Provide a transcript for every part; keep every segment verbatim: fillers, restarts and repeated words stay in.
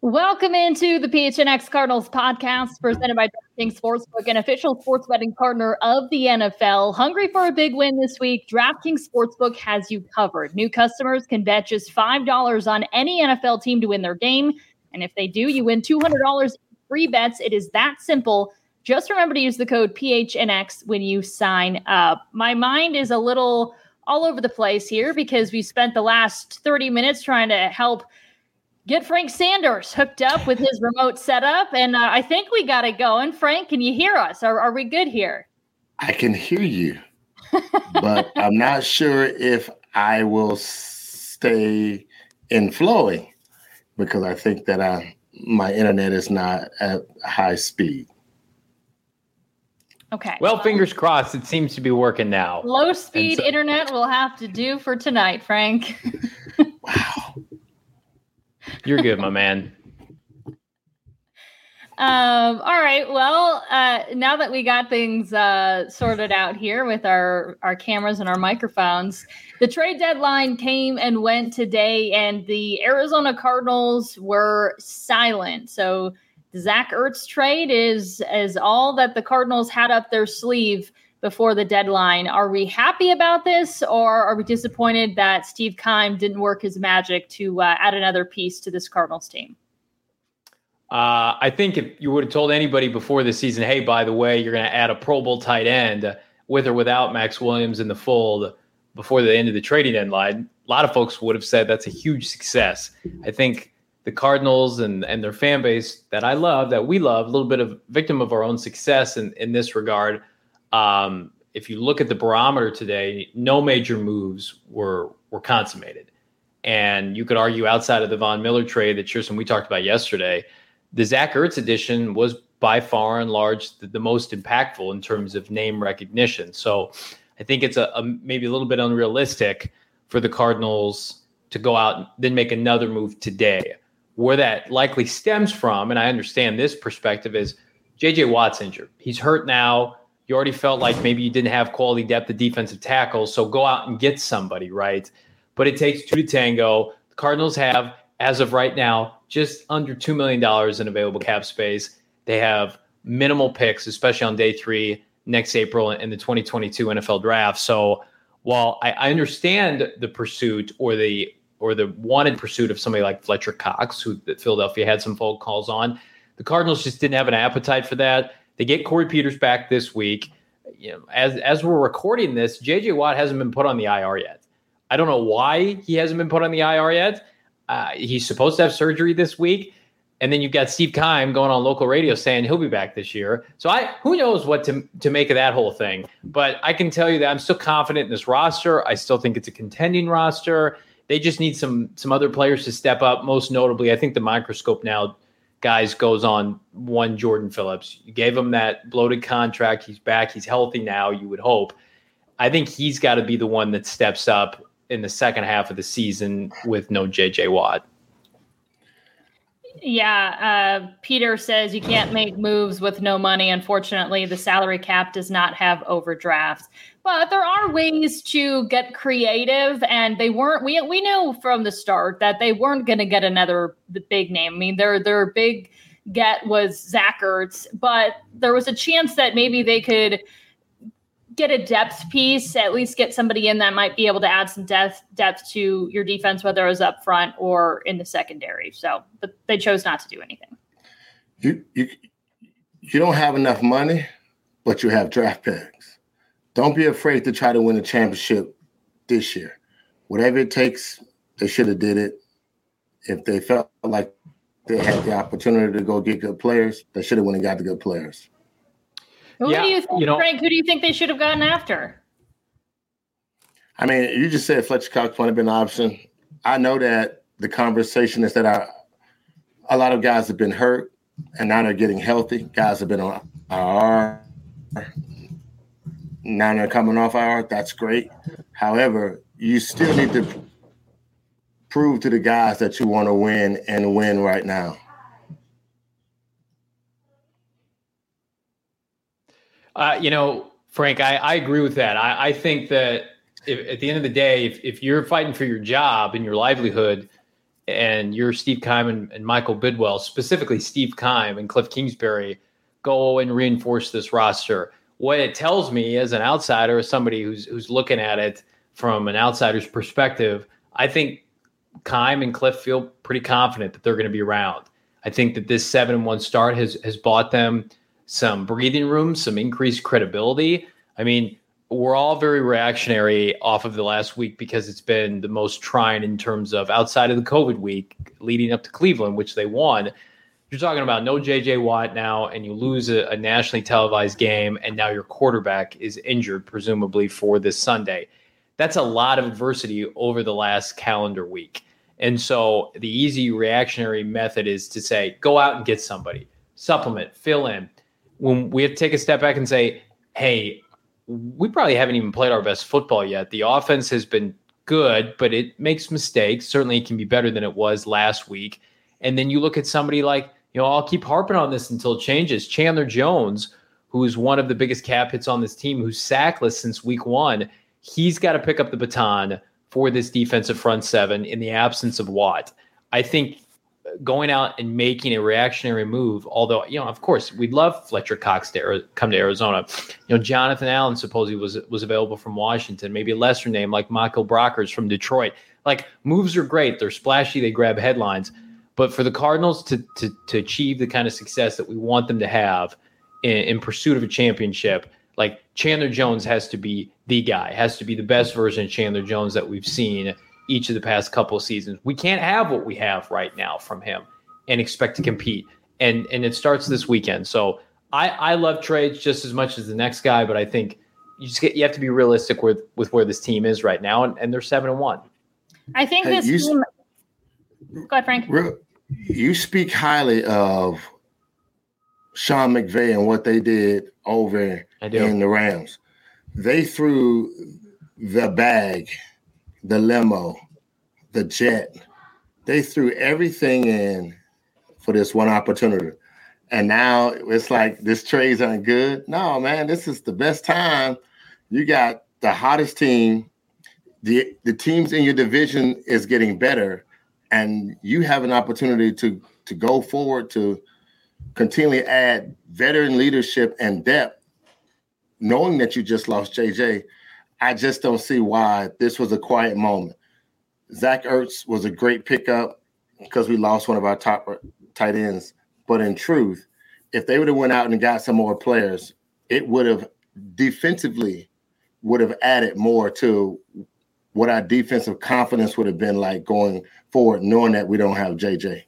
Welcome into the P H N X Cardinals podcast presented by DraftKings Sportsbook, an official sports betting partner of the N F L. Hungry for a big win this week? DraftKings Sportsbook has you covered. New customers can bet just five dollars on any N F L team to win their game. And if they do, you win two hundred dollars in free bets. It is that simple. Just remember to use the code P H N X when you sign up. My mind is a little all over the place here because we spent the last thirty minutes trying to help get Frank Sanders hooked up with his remote setup, and uh, I think we got it going. Frank, can you hear us? Are, are we good here? I can hear you, but I'm not sure if I will stay in flowing because I think that I, my internet is not at high speed. Okay. Well, fingers crossed. It seems to be working now. Low speed so- internet will have to do for tonight, Frank. Wow. You're good, my man. Um, all right. Well, uh, now that we got things uh, sorted out here with our, our cameras and our microphones, the trade deadline came and went today, and the Arizona Cardinals were silent. So the Zach Ertz trade is, is all that the Cardinals had up their sleeve before the deadline. Are we happy about this, or are we disappointed that Steve Keim didn't work his magic to uh, add another piece to this Cardinals team? Uh, I think if you would have told anybody before the season, hey, by the way, you're going to add a Pro Bowl tight end with or without Max Williams in the fold before the end of the trading deadline, a lot of folks would have said that's a huge success. I think the Cardinals and, and their fan base that I love, that we love, a little bit of victim of our own success in, in this regard. Um, if you look at the barometer today, no major moves were were consummated. And you could argue outside of the Von Miller trade that Cheerson we talked about yesterday, the Zach Ertz edition was by far and large the, the most impactful in terms of name recognition. So I think it's a, a maybe a little bit unrealistic for the Cardinals to go out and then make another move today. Where that likely stems from, and I understand this perspective, is J J Watt's injured. He's hurt now. You already felt like maybe you didn't have quality depth at defensive tackle, so go out and get somebody, right? But it takes two to tango. The Cardinals have, as of right now, just under two million dollars in available cap space. They have minimal picks, especially on day three next April in the twenty twenty-two N F L draft. So while I, I understand the pursuit or the or the wanted pursuit of somebody like Fletcher Cox, who Philadelphia had some phone calls on, the Cardinals just didn't have an appetite for that. They get Corey Peters back this week. You know, as as we're recording this, J J Watt hasn't been put on the I R yet. I don't know why he hasn't been put on the I R yet. Uh, he's supposed to have surgery this week. And then you've got Steve Keim going on local radio saying he'll be back this year. So I who knows what to, to make of that whole thing. But I can tell you that I'm still confident in this roster. I still think it's a contending roster. They just need some some other players to step up. Most notably, I think the microscope now, guys, goes on one Jordan Phillips. You gave him that bloated contract. He's back. He's healthy now, you would hope. I think he's got to be the one that steps up in the second half of the season with no J J Watt. Yeah, uh, Peter says you can't make moves with no money. Unfortunately, the salary cap does not have overdrafts. But there are ways to get creative, and they weren't. We we knew from the start that they weren't going to get another big name. I mean, their their big get was Zach Ertz, but there was a chance that maybe they could get a depth piece, at least get somebody in that might be able to add some depth depth to your defense, whether it was up front or in the secondary. So, but they chose not to do anything. You you you don't have enough money, but you have draft picks. Don't be afraid to try to win a championship this year. Whatever it takes, they should have did it. If they felt like they had the opportunity to go get good players, they should have went and got the good players. Who yeah, do you think, you know, Frank? Who do you think they should have gotten after? I mean, you just said Fletcher Cox might have been an option. I know that the conversation is that I, a lot of guys have been hurt, and now they're getting healthy. Guys have been on I R. Now they're coming off I R. That's great. However, you still need to prove to the guys that you want to win and win right now. Uh, you know, Frank, I, I agree with that. I, I think that if, at the end of the day, if, if you're fighting for your job and your livelihood, and you're Steve Keim and, and Michael Bidwell, specifically Steve Keim and Cliff Kingsbury, go and reinforce this roster. What it tells me as an outsider, as somebody who's who's looking at it from an outsider's perspective, I think Keim and Cliff feel pretty confident that they're going to be around. I think that this seven and one start has has bought them some breathing room, some increased credibility. I mean, we're all very reactionary off of the last week because it's been the most trying in terms of outside of the COVID week leading up to Cleveland, which they won. You're talking about no J J Watt now, and you lose a, a nationally televised game, and now your quarterback is injured, presumably for this Sunday. That's a lot of adversity over the last calendar week. And so the easy reactionary method is to say, go out and get somebody, supplement, fill in. When we have to take a step back and say, hey, we probably haven't even played our best football yet. The offense has been good, but it makes mistakes. Certainly it can be better than it was last week. And then you look at somebody like, you know, I'll keep harping on this until it changes. Chandler Jones, who is one of the biggest cap hits on this team, who's sackless since week one. He's got to pick up the baton for this defensive front seven in the absence of Watt. I think going out and making a reactionary move, although, you know, of course, we'd love Fletcher Cox to come to Arizona. You know, Jonathan Allen supposedly was was available from Washington, maybe a lesser name like Michael Brockers from Detroit. Like, moves are great. They're splashy. They grab headlines. But for the Cardinals to to to achieve the kind of success that we want them to have in, in pursuit of a championship, like Chandler Jones has to be the guy, has to be the best version of Chandler Jones that we've seen each of the past couple of seasons. We can't have what we have right now from him and expect to compete. And and it starts this weekend. So I, I love trades just as much as the next guy, but I think you just get you have to be realistic with, with where this team is right now, and, and they're seven and one. I think hey, this you, team. Go ahead, Frank. You speak highly of Sean McVay and what they did over in the Rams. They threw the bag, the limo, the jet. They threw everything in for this one opportunity. And now it's like this trades aren't good. No, man, this is the best time. You got the hottest team. The, the teams in your division is getting better. And you have an opportunity to, to go forward to continually add veteran leadership and depth, knowing that you just lost J J. I just don't see why this was a quiet moment. Zach Ertz was a great pickup because we lost one of our top tight ends. But in truth, if they would have went out and got some more players, it would have defensively would have added more to what our defensive confidence would have been like going forward, knowing that we don't have J J.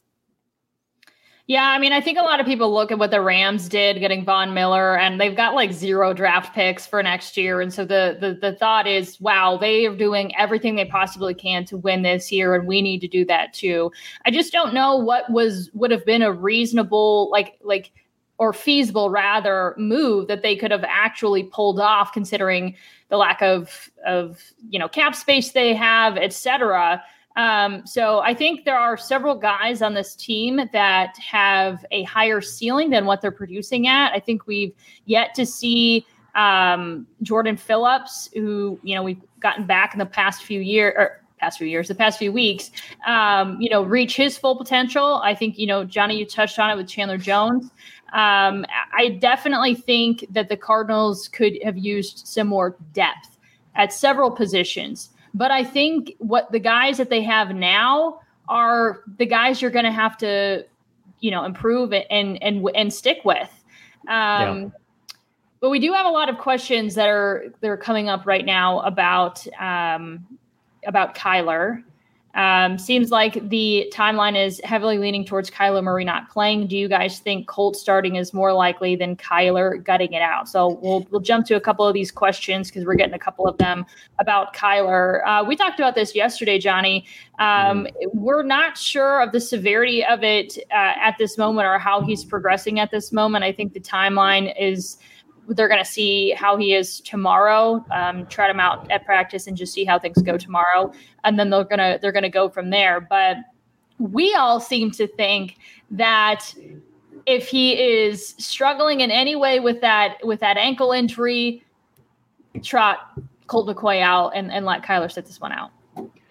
Yeah, I mean, I think a lot of people look at what the Rams did getting Von Miller, and they've got like zero draft picks for next year. And so the the the thought is, wow, they are doing everything they possibly can to win this year, and we need to do that too. I just don't know what was would have been a reasonable, like like or feasible rather move that they could have actually pulled off, considering the lack of of you know cap space they have, et cetera. Um, so I think there are several guys on this team that have a higher ceiling than what they're producing at. I think we've yet to see um, Jordan Phillips, who, you know, we've gotten back in the past few years or past few years, the past few weeks, um, you know, reach his full potential. I think, you know, Johnny, you touched on it with Chandler Jones. Um, I definitely think that the Cardinals could have used some more depth at several positions. But I think what the guys that they have now are the guys you're going to have to, you know, improve and and and stick with. Um, yeah. But we do have a lot of questions that are that are coming up right now about um, about Kyler. Um, seems like the timeline is heavily leaning towards Kyler Murray not playing. Do you guys think Colt starting is more likely than Kyler gutting it out? So we'll we'll jump to a couple of these questions because we're getting a couple of them about Kyler. Uh, we talked about this yesterday, Johnny. Um, mm. We're not sure of the severity of it uh, at this moment or how he's progressing at this moment. I think the timeline is they're going to see how he is tomorrow, um, trot him out at practice and just see how things go tomorrow. And then they're going to, they're going to go from there. But we all seem to think that if he is struggling in any way with that, with that ankle injury, trot Colt McCoy out and, and let Kyler sit this one out.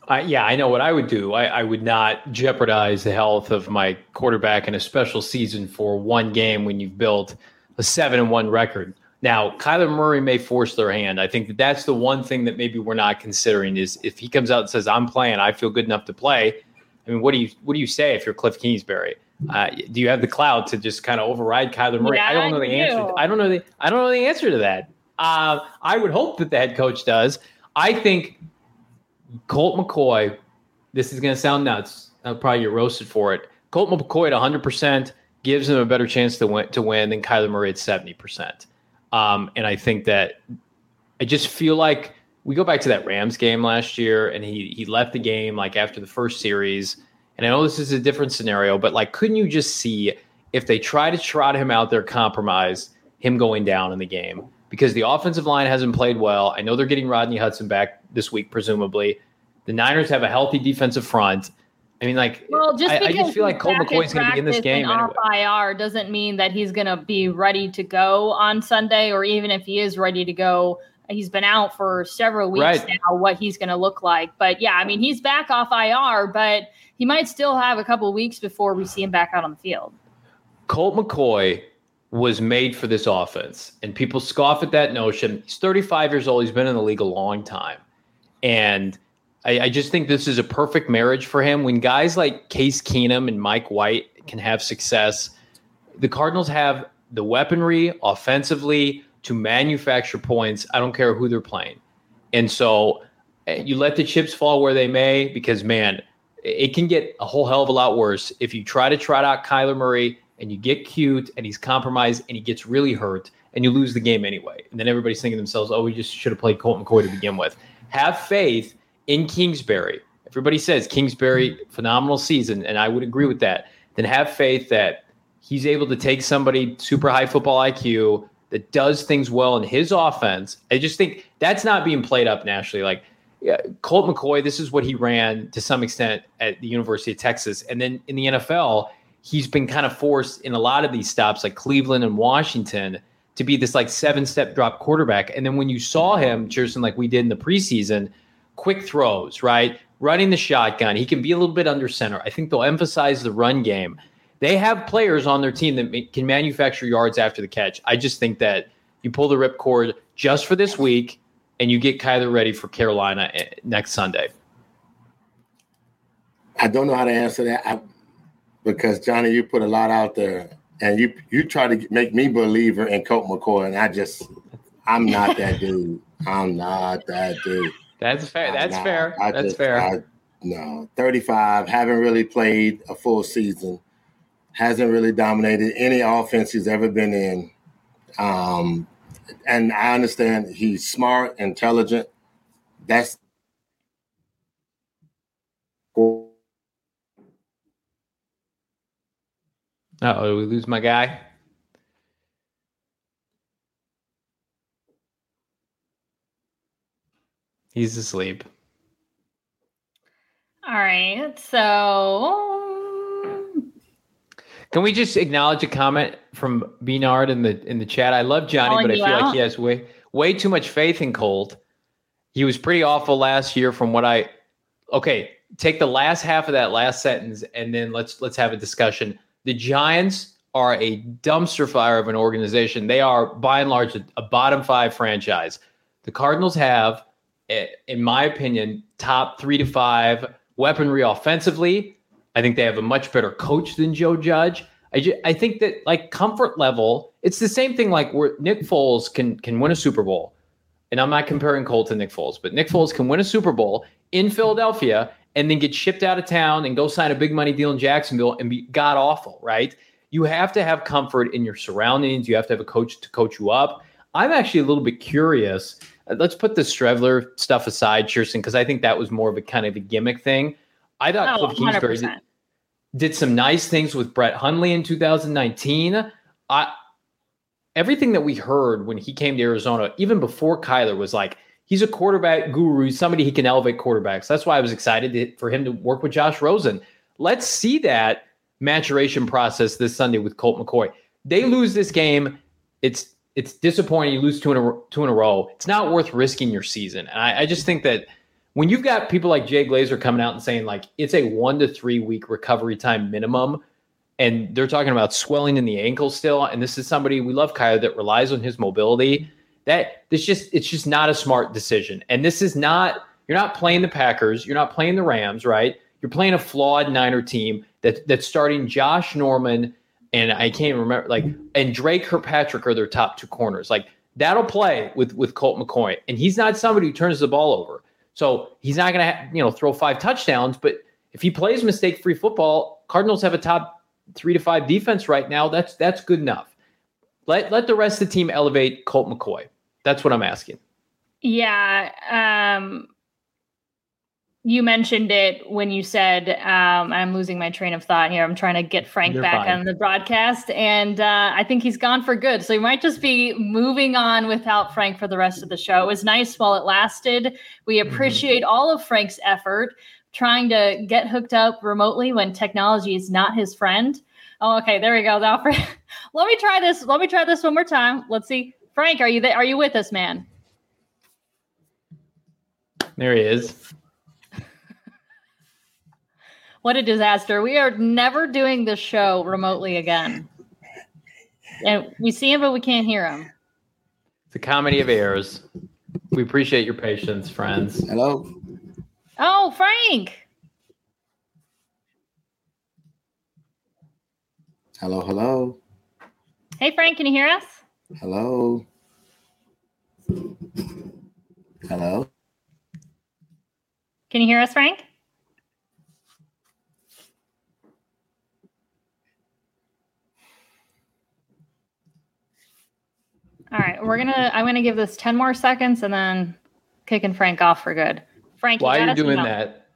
Uh, yeah, I know what I would do. I, I would not jeopardize the health of my quarterback in a special season for one game when you've built a seven and one record. Now, Kyler Murray may force their hand. I think that that's the one thing that maybe we're not considering is if he comes out and says, I'm playing, I feel good enough to play. I mean, what do you what do you say if you're Cliff Kingsbury? Uh, do you have the clout to just kind of override Kyler Murray? Yeah, I don't know the I answer. I don't know the I don't know the answer to that. Uh, I would hope that the head coach does. I think Colt McCoy, this is going to sound nuts. I'll probably get roasted for it. Colt McCoy at one hundred percent gives him a better chance to win, to win than Kyler Murray at seventy percent. Um, and I think that I just feel like we go back to that Rams game last year, and he he left the game like after the first series. And I know this is a different scenario, but like, couldn't you just see if they try to trot him out there, compromise him going down in the game? Because the offensive line hasn't played well. I know they're getting Rodney Hudson back this week, presumably. The Niners have a healthy defensive front. I mean, like, well, just I, I just feel like Colt McCoy's going to be in this game. Off I R doesn't mean that he's going to be ready to go on Sunday, or even if he is ready to go, he's been out for several weeks right. now, what he's going to look like. But yeah, I mean, he's back off I R, but he might still have a couple of weeks before we see him back out on the field. Colt McCoy was made for this offense, and people scoff at that notion. He's thirty-five years old. He's been in the league a long time. And I, I just think this is a perfect marriage for him. When guys like Case Keenum and Mike White can have success, the Cardinals have the weaponry offensively to manufacture points. I don't care who they're playing. And so you let the chips fall where they may, because, man, it can get a whole hell of a lot worse if you try to trot out Kyler Murray and you get cute and he's compromised and he gets really hurt and you lose the game anyway. And then everybody's thinking to themselves, oh, we just should have played Colt McCoy to begin with. Have faith in Kingsbury. Everybody says Kingsbury, phenomenal season, and I would agree with that. Then have faith that he's able to take somebody super high football I Q that does things well in his offense. I just think that's not being played up nationally. Like, yeah, Colt McCoy, this is what he ran to some extent at the University of Texas. And then in the N F L, he's been kind of forced in a lot of these stops like Cleveland and Washington to be this like seven-step drop quarterback. And then when you saw him, Jerson, like we did in the preseason, quick throws, right? Running the shotgun. He can be a little bit under center. I think they'll emphasize the run game. They have players on their team that can manufacture yards after the catch. I just think that you pull the ripcord just for this week and you get Kyler ready for Carolina next Sunday. I don't know how to answer that I, because, Johnny, you put a lot out there, and you you try to make me believer in Colt McCoy, and I just – I'm not that dude. I'm not that dude. That's fair. That's not, fair. I That's just, fair. I, no, thirty-five, haven't really played a full season, hasn't really dominated any offense he's ever been in. Um, and I understand he's smart, intelligent. That's Uh-oh, did we lose my guy? He's asleep. All right, so can we just acknowledge a comment from Beanard in the in the chat? I love Johnny, Calling but I you feel out? like he has way way too much faith in Colt. He was pretty awful last year from what I okay, take the last half of that last sentence and then let's let's have a discussion. The Giants are a dumpster fire of an organization. They are, by and large, a, a bottom five franchise. The Cardinals have, in my opinion, top three to five weaponry offensively. I think they have a much better coach than Joe Judge. I, just, I think that, like, comfort level, it's the same thing like where Nick Foles can can win a Super Bowl. And I'm not comparing Colt to Nick Foles, but Nick Foles can win a Super Bowl in Philadelphia and then get shipped out of town and go sign a big money deal in Jacksonville and be god awful, right? You have to have comfort in your surroundings. You have to have a coach to coach you up. I'm actually a little bit curious. Let's put the Strevler stuff aside, Kirsten, because I think that was more of a kind of a gimmick thing. I thought oh, Cliff Kingsbury did, did some nice things with Brett Hundley in two thousand nineteen. I, everything that we heard when he came to Arizona, even before Kyler, was like, he's a quarterback guru, somebody he can elevate quarterbacks. That's why I was excited to, for him to work with Josh Rosen. Let's see that maturation process this Sunday with Colt McCoy. They lose this game. It's it's disappointing. You lose two in a, two in a row. It's not worth risking your season. And I, I just think that when you've got people like Jay Glazer coming out and saying like it's a one to three week recovery time minimum, and they're talking about swelling in the ankle still, and this is somebody, we love Kyler, that relies on his mobility, that this just it's just not a smart decision. And this is not, you're not playing the Packers, you're not playing the Rams, right? You're playing a flawed Niner team that that's starting Josh Norman and I can't remember, like, and Drake Kirkpatrick are their top two corners. Like, that'll play with with Colt McCoy, and he's not somebody who turns the ball over. So he's not going to, you know, throw five touchdowns. But if he plays mistake-free football, Cardinals have a top three to five defense right now. That's that's good enough. Let let the rest of the team elevate Colt McCoy. That's what I'm asking. Yeah. Um, you mentioned it when you said, um, I'm losing my train of thought here. I'm trying to get Frank You're back fine. on the broadcast, and uh, I think he's gone for good. So we might just be moving on without Frank for the rest of the show. It was nice while it lasted. We appreciate mm-hmm. all of Frank's effort trying to get hooked up remotely when technology is not his friend. Oh, okay. There we go. Now, Frank, let me try this. Let me try this one more time. Let's see. Frank, are you there? Are you with us, man? There he is. What a disaster. We are never doing this show remotely again. And we see him, but we can't hear him. It's a comedy of errors. We appreciate your patience, friends. Hello. Oh, Frank. Hello, hello. Hey, Frank, can you hear us? Hello. Hello. Can you hear us, Frank? All right, we're gonna. I'm gonna give this ten more seconds and then kicking Frank off for good. Frank, while you you're doing no? that,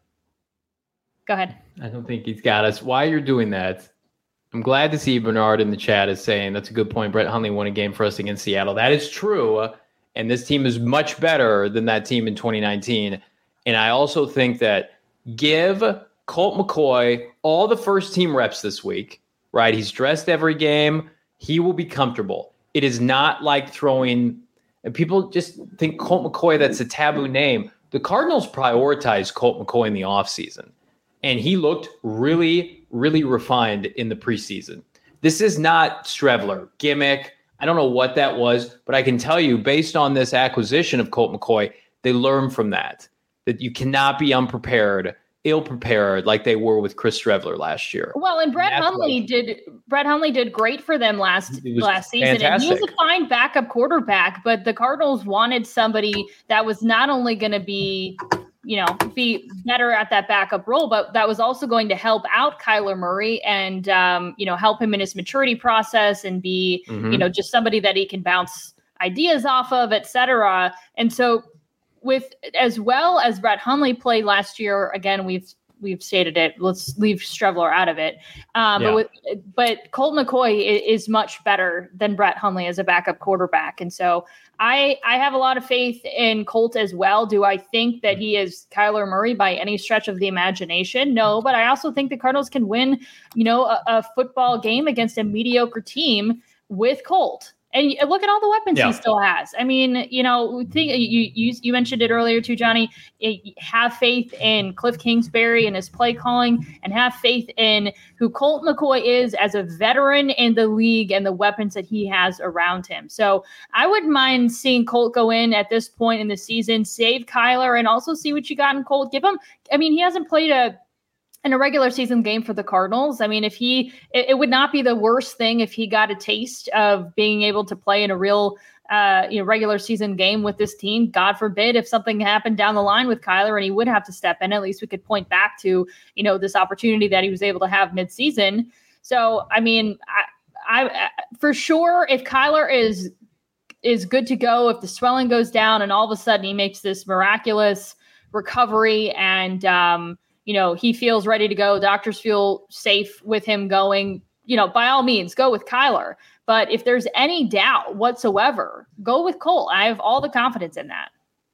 go ahead. I don't think he's got us. While you're doing that, I'm glad to see Bernard in the chat is saying that's a good point. Brett Hundley won a game for us against Seattle. That is true, and this team is much better than that team in twenty nineteen. And I also think that give Colt McCoy all the first team reps this week. Right, he's dressed every game. He will be comfortable. It is not like throwing, and people just think Colt McCoy, that's a taboo name. The Cardinals prioritized Colt McCoy in the offseason, and he looked really, really refined in the preseason. This is not Streveler, gimmick. I don't know what that was, but I can tell you, based on this acquisition of Colt McCoy, they learned from that, that you cannot be unprepared, ill-prepared like they were with Chris Streveler last year. Well, and Brett and Hundley did Brett Hundley did great for them last last season. Fantastic. And he was a fine backup quarterback, but the Cardinals wanted somebody that was not only going to be, you know, be better at that backup role, but that was also going to help out Kyler Murray and um, you know, help him in his maturity process and be, mm-hmm. you know, just somebody that he can bounce ideas off of, et cetera. And so with as well as Brett Hundley played last year, again, we've we've stated it. Let's leave Streveler out of it. Uh, yeah. But with, but Colt McCoy is, is much better than Brett Hundley as a backup quarterback, and so I I have a lot of faith in Colt as well. Do I think that he is Kyler Murray by any stretch of the imagination? No, but I also think the Cardinals can win, you know, a, a football game against a mediocre team with Colt. And look at all the weapons yeah. he still has. I mean, you know, think, you, you you mentioned it earlier too, Johnny. Have faith in Cliff Kingsbury and his play calling, and have faith in who Colt McCoy is as a veteran in the league and the weapons that he has around him. So I wouldn't mind seeing Colt go in at this point in the season, save Kyler, and also see what you got in Colt. Give him. I mean, he hasn't played a. in a regular season game for the Cardinals. I mean, if he, it, it would not be the worst thing if he got a taste of being able to play in a real, uh, you know, regular season game with this team. God forbid if something happened down the line with Kyler and he would have to step in, at least we could point back to, you know, this opportunity that he was able to have midseason. So, I mean, I, I, for sure, if Kyler is, is good to go, if the swelling goes down and all of a sudden he makes this miraculous recovery and, um, you know, he feels ready to go, doctors feel safe with him going, you know, by all means, go with Kyler. But if there's any doubt whatsoever, go with Colt. I have all the confidence in that.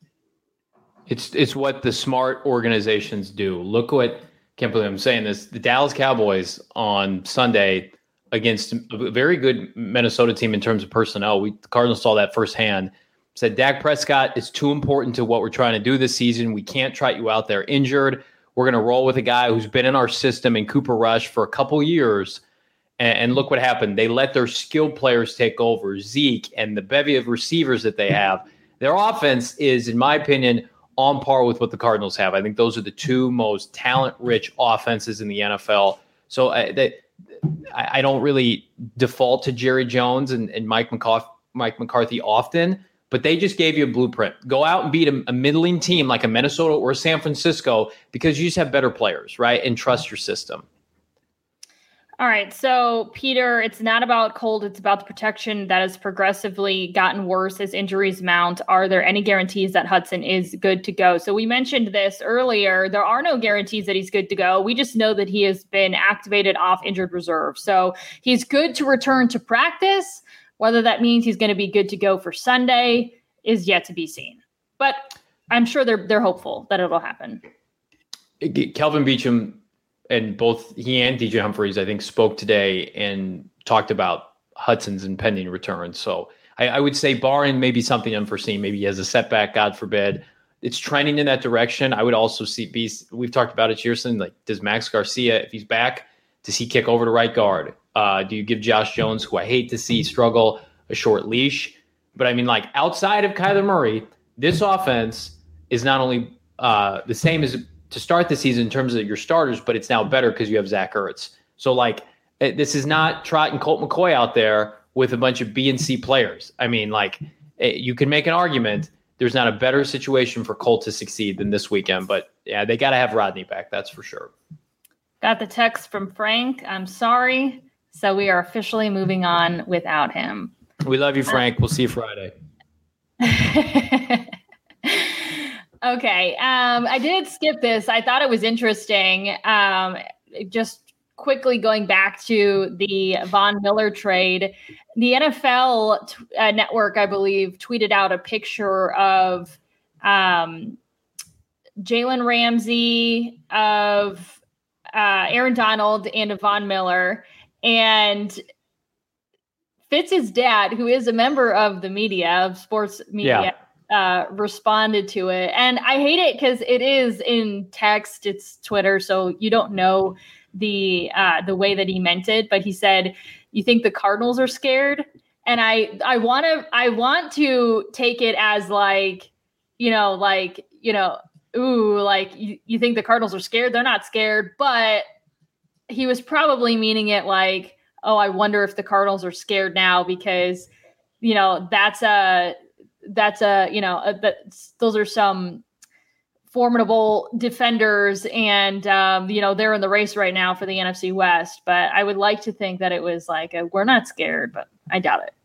It's it's what the smart organizations do. Look what, can't believe I'm saying this, the Dallas Cowboys on Sunday against a very good Minnesota team in terms of personnel. We the Cardinals saw that firsthand. said Dak Prescott is too important to what we're trying to do this season. We can't trot you out there injured. We're going to roll with a guy who's been in our system in Cooper Rush for a couple years. And, and look what happened. They let their skilled players take over, Zeke and the bevy of receivers that they have. Their offense is, in my opinion, on par with what the Cardinals have. I think those are the two most talent-rich offenses in the N F L. So uh, they, I, I don't really default to Jerry Jones and, and Mike McCarthy, Mike McCarthy often, but they just gave you a blueprint. Go out and beat a, a middling team like a Minnesota or San Francisco because you just have better players, right? And trust your system. All right. So, Peter, it's not about cold. It's about the protection that has progressively gotten worse as injuries mount. Are there any guarantees that Hudson is good to go? So we mentioned this earlier. There are no guarantees that he's good to go. We just know that he has been activated off injured reserve. So he's good to return to practice. Whether that means he's going to be good to go for Sunday is yet to be seen. But I'm sure they're they're hopeful that it'll happen. Kelvin Beachum and both he and D J Humphries, I think, spoke today and talked about Hudson's impending return. So I, I would say, barring maybe something unforeseen, maybe he has a setback, God forbid, it's trending in that direction. I would also see, be, we've talked about it, Shearson, like, does Max Garcia, if he's back, does he kick over to right guard? Uh, do you give Josh Jones, who I hate to see struggle, a short leash? But I mean, like, outside of Kyler Murray, this offense is not only uh, the same as to start the season in terms of your starters, but it's now better because you have Zach Ertz. So, like, this is not Trot and Colt McCoy out there with a bunch of B and C players. I mean, like, you can make an argument there's not a better situation for Colt to succeed than this weekend. But, yeah, they got to have Rodney back, that's for sure. Got the text from Frank. I'm sorry. So we are officially moving on without him. We love you, Frank. We'll see you Friday. Okay. Um, I did skip this. I thought it was interesting. Um, just quickly going back to the Von Miller trade, the N F L t- uh, network, I believe, tweeted out a picture of um, Jalen Ramsey, of uh, Aaron Donald, and of Von Miller. And Fitz's dad, who is a member of the media, of sports media, yeah. Uh, responded to it. And I hate it because it is in text. It's Twitter, so you don't know the uh, the way that he meant it. But he said, "You think the Cardinals are scared?" And I I want to I want to take it as like, you know, like, you know, ooh, like you, you think the Cardinals are scared? They're not scared. But he was probably meaning it like, oh, I wonder if the Cardinals are scared now because, you know, that's a That's a, you know, a, that's, those are some formidable defenders and, um, you know, they're in the race right now for the N F C West. But I would like to think that it was like, a, we're not scared, but I doubt it.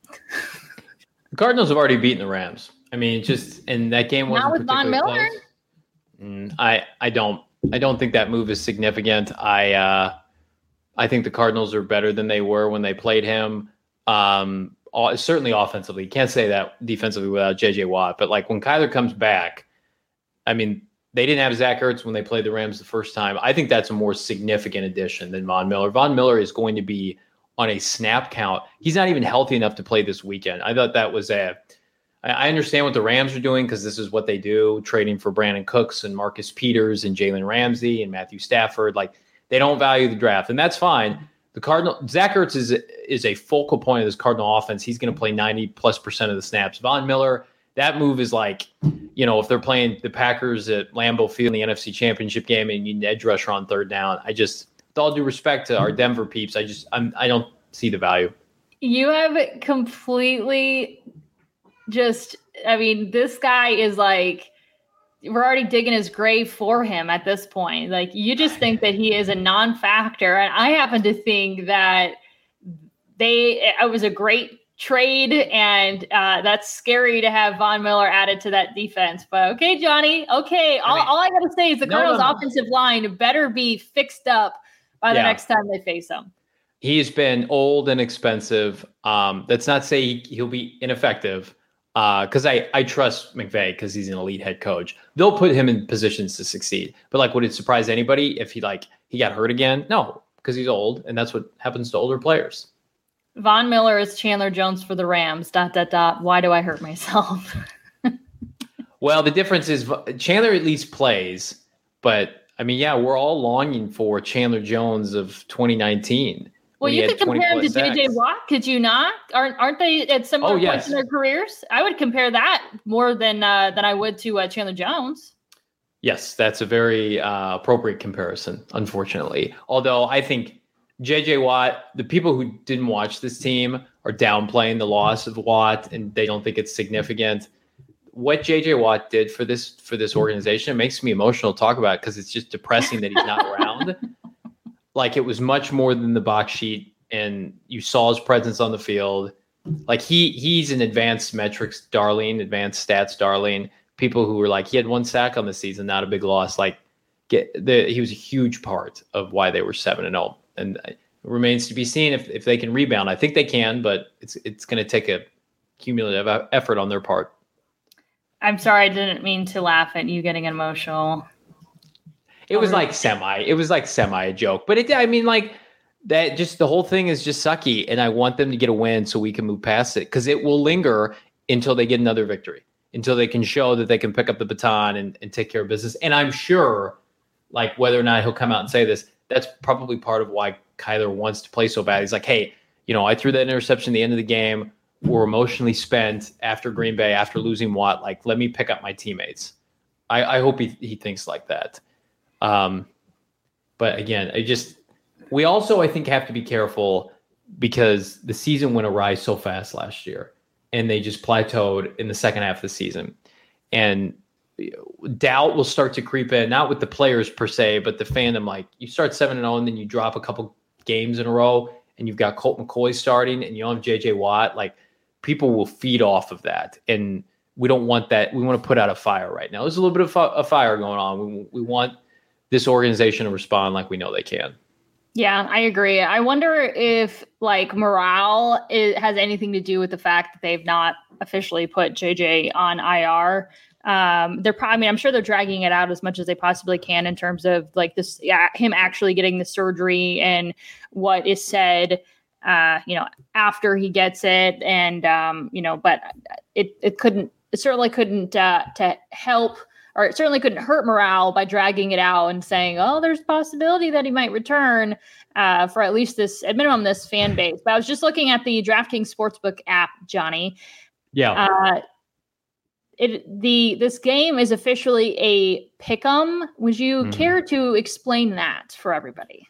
The Cardinals have already beaten the Rams. I mean, just, and that game wasn't not with Von Miller. Close. Mm, I, I don't, I don't think that move is significant. I, uh, I think the Cardinals are better than they were when they played him. Um, Certainly offensively. You can't say that defensively without J J Watt. But like when Kyler comes back, I mean, they didn't have Zach Ertz when they played the Rams the first time. I think that's a more significant addition than Von Miller. Von Miller is going to be on a snap count. He's not even healthy enough to play this weekend. I thought that was a – I understand what the Rams are doing because this is what they do, trading for Brandon Cooks and Marcus Peters and Jalen Ramsey and Matthew Stafford. Like, they don't value the draft, and that's fine. The Cardinal Zach Ertz is is a focal point of this Cardinal offense. He's going to play ninety plus percent of the snaps. Von Miller, that move is like, you know, if they're playing the Packers at Lambeau Field in the N F C Championship game and you need an edge rusher on third down. I just, with all due respect to our Denver peeps, I just I'm, I don't see the value. You have completely just. I mean, this guy is like. We're already digging his grave for him at this point. Like, you just think that he is a non-factor. And I happen to think that they, it was a great trade and uh, that's scary to have Von Miller added to that defense. But okay, Johnny, okay. All I, mean, all I got to say is the no, Cardinals no, no. offensive line better be fixed up by the yeah. next time they face them. He's been old and expensive. Um, that's not say he'll be ineffective. Because uh, I, I trust McVay because he's an elite head coach. They'll put him in positions to succeed. But like, would it surprise anybody if he like he got hurt again? No, because he's old, and that's what happens to older players. Von Miller is Chandler Jones for the Rams. Dot dot dot. Why do I hurt myself? Well, the difference is Chandler at least plays, but I mean, yeah, we're all longing for Chandler Jones of twenty nineteen. Well, you could compare him to J J Watt, could you not? Aren't aren't they at similar oh, yes. points in their careers? I would compare that more than uh, than I would to uh, Chandler Jones. Yes, that's a very uh, appropriate comparison, unfortunately. Although I think J J Watt, the people who didn't watch this team are downplaying the loss of Watt, and they don't think it's significant. What J J Watt did for this for this organization, it makes me emotional to talk about it because it's just depressing that he's not around. Like, it was much more than the box sheet, and you saw his presence on the field. Like, he he's an advanced metrics darling, advanced stats darling. People who were like, he had one sack on the season, not a big loss. Like, get the he was a huge part of why they were seven and zero, and it remains to be seen if if they can rebound. I think they can, but it's it's going to take a cumulative effort on their part. I'm sorry, I didn't mean to laugh at you getting emotional. It was like semi. It was like semi a joke, but it. I mean, like that. Just the whole thing is just sucky, and I want them to get a win so we can move past it because it will linger until they get another victory, until they can show that they can pick up the baton and, and take care of business. And I'm sure, like whether or not he'll come out and say this, that's probably part of why Kyler wants to play so bad. He's like, hey, you know, I threw that interception at the end of the game. We're emotionally spent after Green Bay, after losing Watt. Like, let me pick up my teammates. I, I hope he he thinks like that. Um, but again, I just, we also, I think, have to be careful because the season went awry so fast last year and they just plateaued in the second half of the season. And doubt will start to creep in, not with the players per se, but the fandom. Like, you start seven and oh and then you drop a couple games in a row and you've got Colt McCoy starting and you don't have J J Watt. Like, people will feed off of that. And we don't want that. We want to put out a fire right now. There's a little bit of a fire going on. We, we want this organization to respond like we know they can. Yeah, I agree. I wonder if like morale is, has anything to do with the fact that they've not officially put J J on I R. Um, they're probably, I mean, I'm sure they're dragging it out as much as they possibly can in terms of like this, yeah, him actually getting the surgery and what is said, uh, you know, after he gets it. And, um, you know, but it, it couldn't, it certainly couldn't, uh, to help, or it certainly couldn't hurt morale by dragging it out and saying, oh, there's a possibility that he might return uh, for at least this, at minimum, this fan base. But I was just looking at the DraftKings Sportsbook app, Johnny. Yeah. Uh, it the this game is officially a pick'em. Would you mm-hmm. care to explain that for everybody?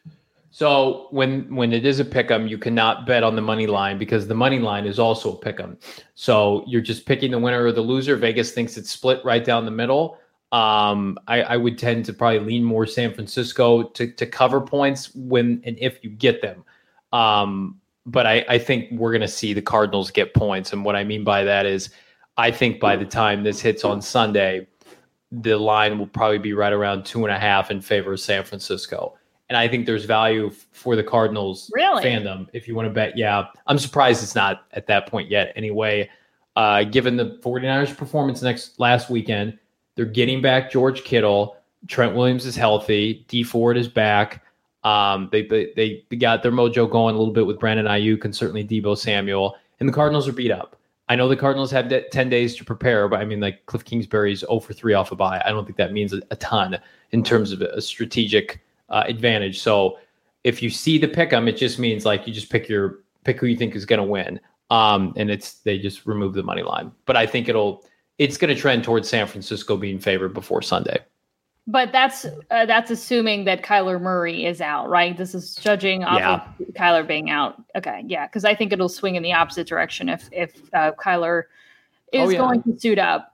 So when when it is a pick'em, you cannot bet on the money line because the money line is also a pick'em. So you're just picking the winner or the loser. Vegas thinks it's split right down the middle. Um, I, I would tend to probably lean more San Francisco to to cover points when and if you get them. Um, but I, I think we're going to see the Cardinals get points. And what I mean by that is I think by the time this hits on Sunday, the line will probably be right around two and a half in favor of San Francisco. And I think there's value for the Cardinals really? fandom if you want to bet. Yeah, I'm surprised it's not at that point yet. Anyway, uh, given the 49ers performance next last weekend, they're getting back George Kittle. Trent Williams is healthy. Dee Ford is back. Um, they, they they got their mojo going a little bit with Brandon Ayuk and certainly Deebo Samuel. And the Cardinals are beat up. I know the Cardinals have ten days to prepare, but I mean, like Cliff Kingsbury's oh for three off a bye. I don't think that means a, a ton in terms of a strategic uh, advantage. So if you see the pick 'em, it just means like you just pick your pick who you think is going to win. Um, and it's they just remove the money line. But I think it'll it's going to trend towards San Francisco being favored before Sunday. But that's uh, that's assuming that Kyler Murray is out, right? This is judging off yeah. of Kyler being out. Okay, yeah, because I think it'll swing in the opposite direction if if uh, Kyler is oh, yeah. going to suit up.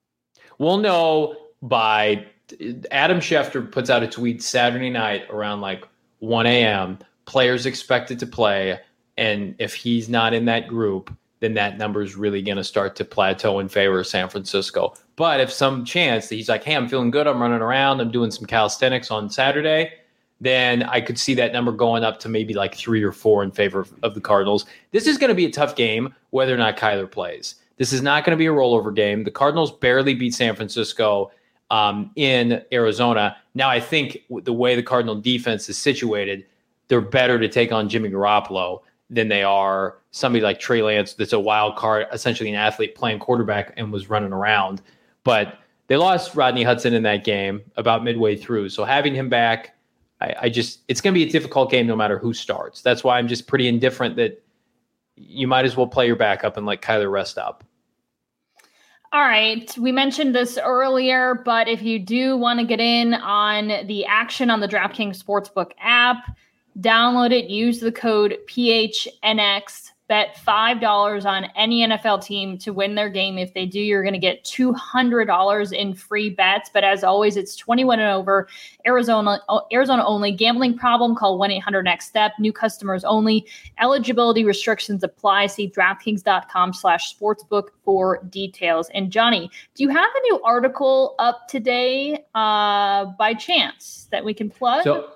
We'll know by Adam Schefter puts out a tweet Saturday night around like one a.m. Players expected to play, and if he's not in that group, then that number is really going to start to plateau in favor of San Francisco. But if some chance that he's like, hey, I'm feeling good, I'm running around, I'm doing some calisthenics on Saturday, then I could see that number going up to maybe like three or four in favor of, of the Cardinals. This is going to be a tough game, whether or not Kyler plays. This is not going to be a rollover game. The Cardinals barely beat San Francisco um, in Arizona. Now, I think the way the Cardinal defense is situated, they're better to take on Jimmy Garoppolo than they are somebody like Trey Lance that's a wild card, essentially an athlete playing quarterback and was running around. But they lost Rodney Hudson in that game about midway through. So having him back, I, I just it's going to be a difficult game no matter who starts. That's why I'm just pretty indifferent that you might as well play your backup and let Kyler rest up. All right. We mentioned this earlier, but if you do want to get in on the action on the DraftKings Sportsbook app, download it, use the code P H N X, bet five dollars on any N F L team to win their game. If they do, you're going to get two hundred dollars in free bets. But as always, it's twenty-one and over, Arizona Arizona only. Gambling problem, call one eight hundred next step. New customers only. Eligibility restrictions apply. See DraftKings.com slash sportsbook for details. And Johnny, do you have a new article up today uh, by chance that we can plug? So,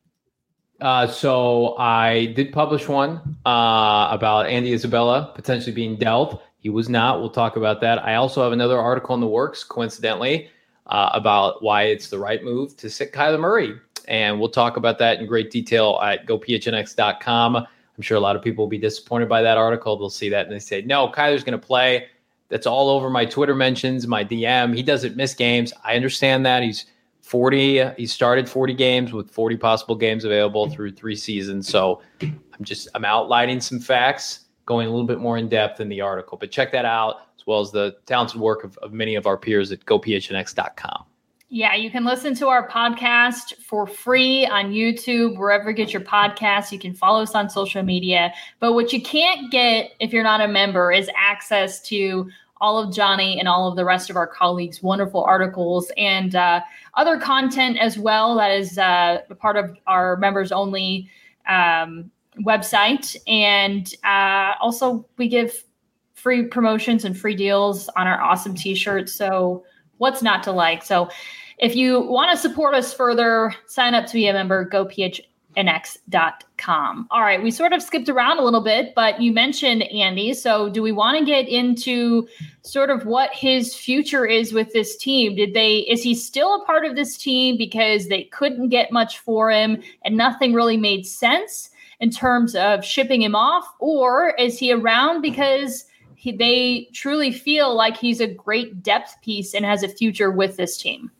Uh, so I did publish one uh, about Andy Isabella potentially being dealt. He was not. We'll talk about that. I also have another article in the works, coincidentally, uh, about why it's the right move to sit Kyler Murray. And we'll talk about that in great detail at go P H N X dot com. I'm sure a lot of people will be disappointed by that article. They'll see that and they say, no, Kyler's going to play. That's all over my Twitter mentions, my D M. He doesn't miss games. I understand that. He's forty. He started forty games with forty possible games available through three seasons. So I'm just I'm outlining some facts, going a little bit more in depth in the article. But check that out, as well as the talented work of, of many of our peers at go P H N X dot com. Yeah, you can listen to our podcast for free on YouTube, wherever you get your podcasts. You can follow us on social media. But what you can't get if you're not a member is access to all of Johnny and all of the rest of our colleagues' wonderful articles and uh, other content as well. That is uh, a part of our members only um, website. And uh, also we give free promotions and free deals on our awesome t-shirts. So what's not to like? So if you want to support us further, sign up to be a member, go P H N X dot com. All right. We sort of skipped around a little bit, but you mentioned Andy. So do we want to get into sort of what his future is with this team? Did they, is he still a part of this team because they couldn't get much for him and nothing really made sense in terms of shipping him off? Or is he around because he, they truly feel like he's a great depth piece and has a future with this team?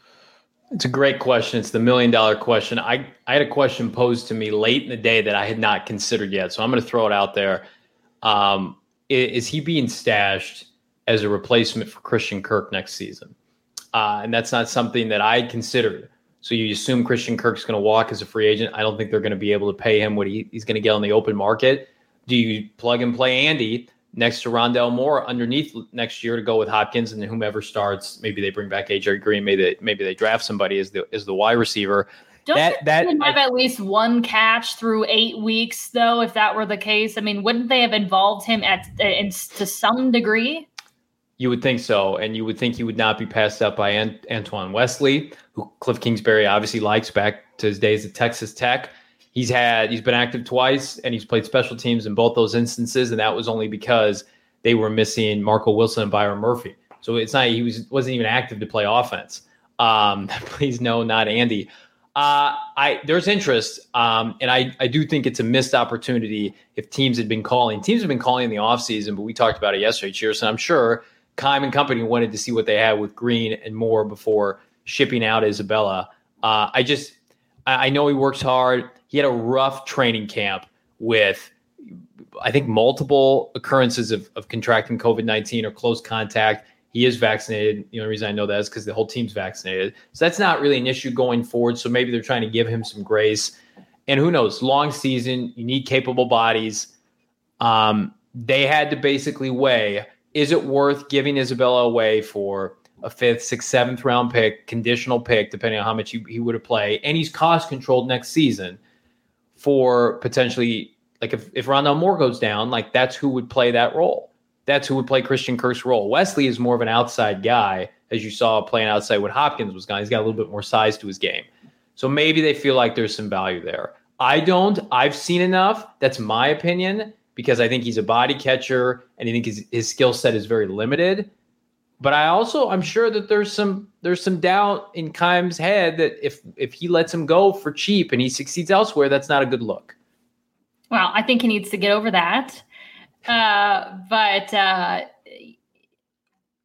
It's a great question. It's the million dollar question. I, I had a question posed to me late in the day that I had not considered yet. So I'm going to throw it out there. Um, is, is he being stashed as a replacement for Christian Kirk next season? Uh, and that's not something that I considered. So you assume Christian Kirk's going to walk as a free agent. I don't think they're going to be able to pay him what he, he's going to get on the open market. Do you plug and play Andy next to Rondale Moore underneath next year to go with Hopkins, and whomever starts, maybe they bring back A J Green, maybe they, maybe they draft somebody as the as the wide receiver. Don't that that have I, at least one catch through eight weeks, though? If that were the case, I mean, wouldn't they have involved him at in, to some degree? You would think so, and you would think he would not be passed up by Ant- Antoine Wesley, who Cliff Kingsbury obviously likes back to his days at Texas Tech. He's had he's been active twice, and he's played special teams in both those instances, and that was only because they were missing Marco Wilson and Byron Murphy. So it's not he was wasn't even active to play offense. Um, please no, not Andy. Uh, I there's interest, um, and I I do think it's a missed opportunity if teams had been calling. Teams have been calling in the offseason, but we talked about it yesterday, Cheers, and I'm sure Keim and company wanted to see what they had with Green and Moore before shipping out Isabella. Uh, I just I, I know he works hard. He had a rough training camp with, I think, multiple occurrences of, of contracting COVID nineteen or close contact. He is vaccinated. The only reason I know that is because the whole team's vaccinated. So that's not really an issue going forward. So maybe they're trying to give him some grace. And who knows? Long season, you need capable bodies. Um, they had to basically weigh, is it worth giving Isabella away for a fifth, sixth, seventh round pick, conditional pick, depending on how much he, he would have played, and he's cost controlled next season for potentially, like if, if Rondale Moore goes down, like that's who would play that role. That's who would play Christian Kirk's role. Wesley is more of an outside guy, as you saw playing outside when Hopkins was gone. He's got a little bit more size to his game. So maybe they feel like there's some value there. I don't. I've seen enough. That's my opinion, because I think he's a body catcher and I think his, his skill set is very limited. But I also, I'm sure that there's some there's some doubt in Keim's head that if if he lets him go for cheap and he succeeds elsewhere, that's not a good look. Well, I think he needs to get over that. Uh, but uh,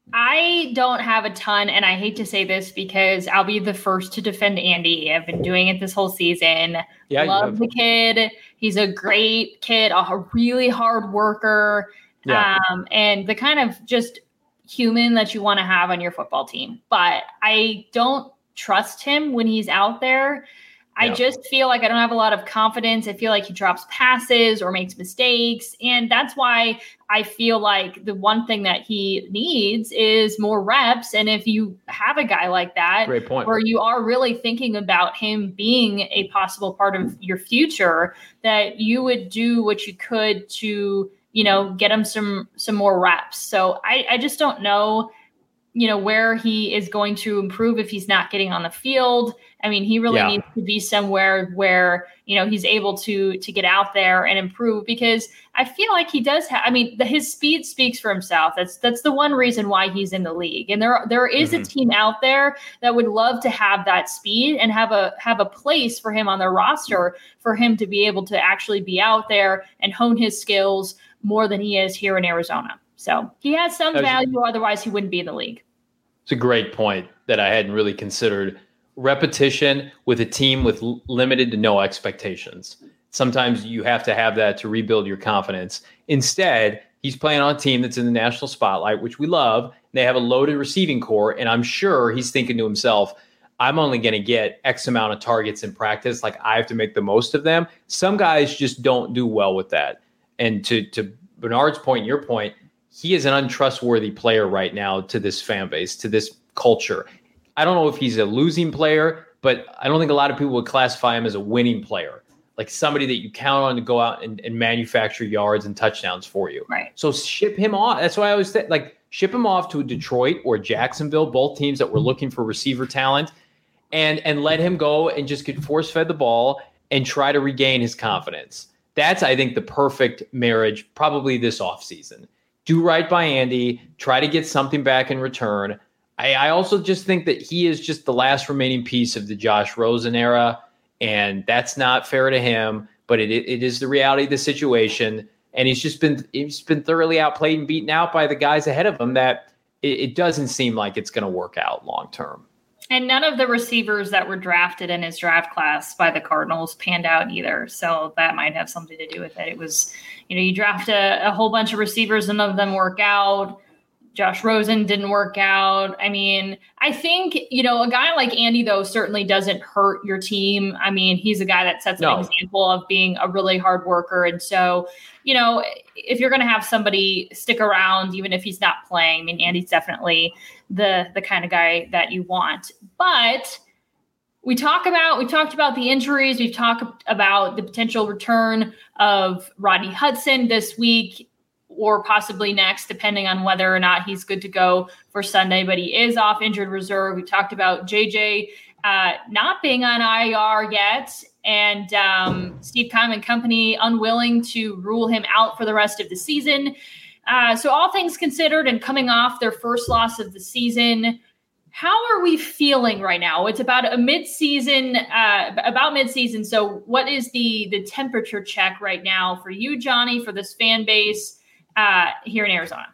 I don't have a ton, and I hate to say this because I'll be the first to defend Andy. I've been doing it this whole season. Yeah, love the kid. He's a great kid, a really hard worker, yeah. um, and the kind of just human that you want to have on your football team. But I don't trust him when he's out there. I just feel like I don't have a lot of confidence. I feel like he drops passes or makes mistakes. And that's why I feel like the one thing that he needs is more reps. And if you have a guy like that, great point, where you are really thinking about him being a possible part of your future, that you would do what you could to, you know, get him some, some more reps. So I, I just don't know, you know, where he is going to improve if he's not getting on the field. I mean, he really yeah. needs to be somewhere where, you know, he's able to, to get out there and improve, because I feel like he does have, I mean, the, his speed speaks for himself. That's, that's the one reason why he's in the league. And there, there is mm-hmm. a team out there that would love to have that speed and have a, have a place for him on their roster, for him to be able to actually be out there and hone his skills more than he is here in Arizona. So he has some value, otherwise he wouldn't be in the league. It's a great point that I hadn't really considered. Repetition with a team with l- limited to no expectations. Sometimes you have to have that to rebuild your confidence. Instead, he's playing on a team that's in the national spotlight, which we love. They have a loaded receiving core, and I'm sure he's thinking to himself, I'm only going to get X amount of targets in practice. Like, I have to make the most of them. Some guys just don't do well with that. And to, to Bernard's point, your point, he is an untrustworthy player right now to this fan base, to this culture. I don't know if he's a losing player, but I don't think a lot of people would classify him as a winning player, like somebody that you count on to go out and, and manufacture yards and touchdowns for you. Right. So ship him off. That's why I always say, like, ship him off to Detroit or Jacksonville, both teams that were looking for receiver talent, and and let him go and just get force fed the ball and try to regain his confidence. That's, I think, the perfect marriage, probably this offseason. Do right by Andy, try to get something back in return. I, I also just think that he is just the last remaining piece of the Josh Rosen era, and that's not fair to him, but it it is the reality of the situation. And he's just been he's been thoroughly outplayed and beaten out by the guys ahead of him that it, it doesn't seem like it's going to work out long term. And none of the receivers that were drafted in his draft class by the Cardinals panned out either. So that might have something to do with it. It was, you know, you draft a, a whole bunch of receivers and none of them work out. Josh Rosen didn't work out. I mean, I think, you know, a guy like Andy, though, certainly doesn't hurt your team. I mean, he's a guy that sets no. an example of being a really hard worker. And so, you know, if you're going to have somebody stick around, even if he's not playing, I mean, Andy's definitely the the kind of guy that you want. But we talk about, we talked about the injuries. We've talked about the potential return of Rodney Hudson this week, or possibly next, depending on whether or not he's good to go for Sunday, but he is off injured reserve. We talked about J J uh, not being on I R yet, and um, Steve Keim and company unwilling to rule him out for the rest of the season. Uh, so all things considered, and coming off their first loss of the season, how are we feeling right now? It's about a mid-season, uh, about mid-season. So what is the the temperature check right now for you, Johnny, for this fan base uh, here in Arizona?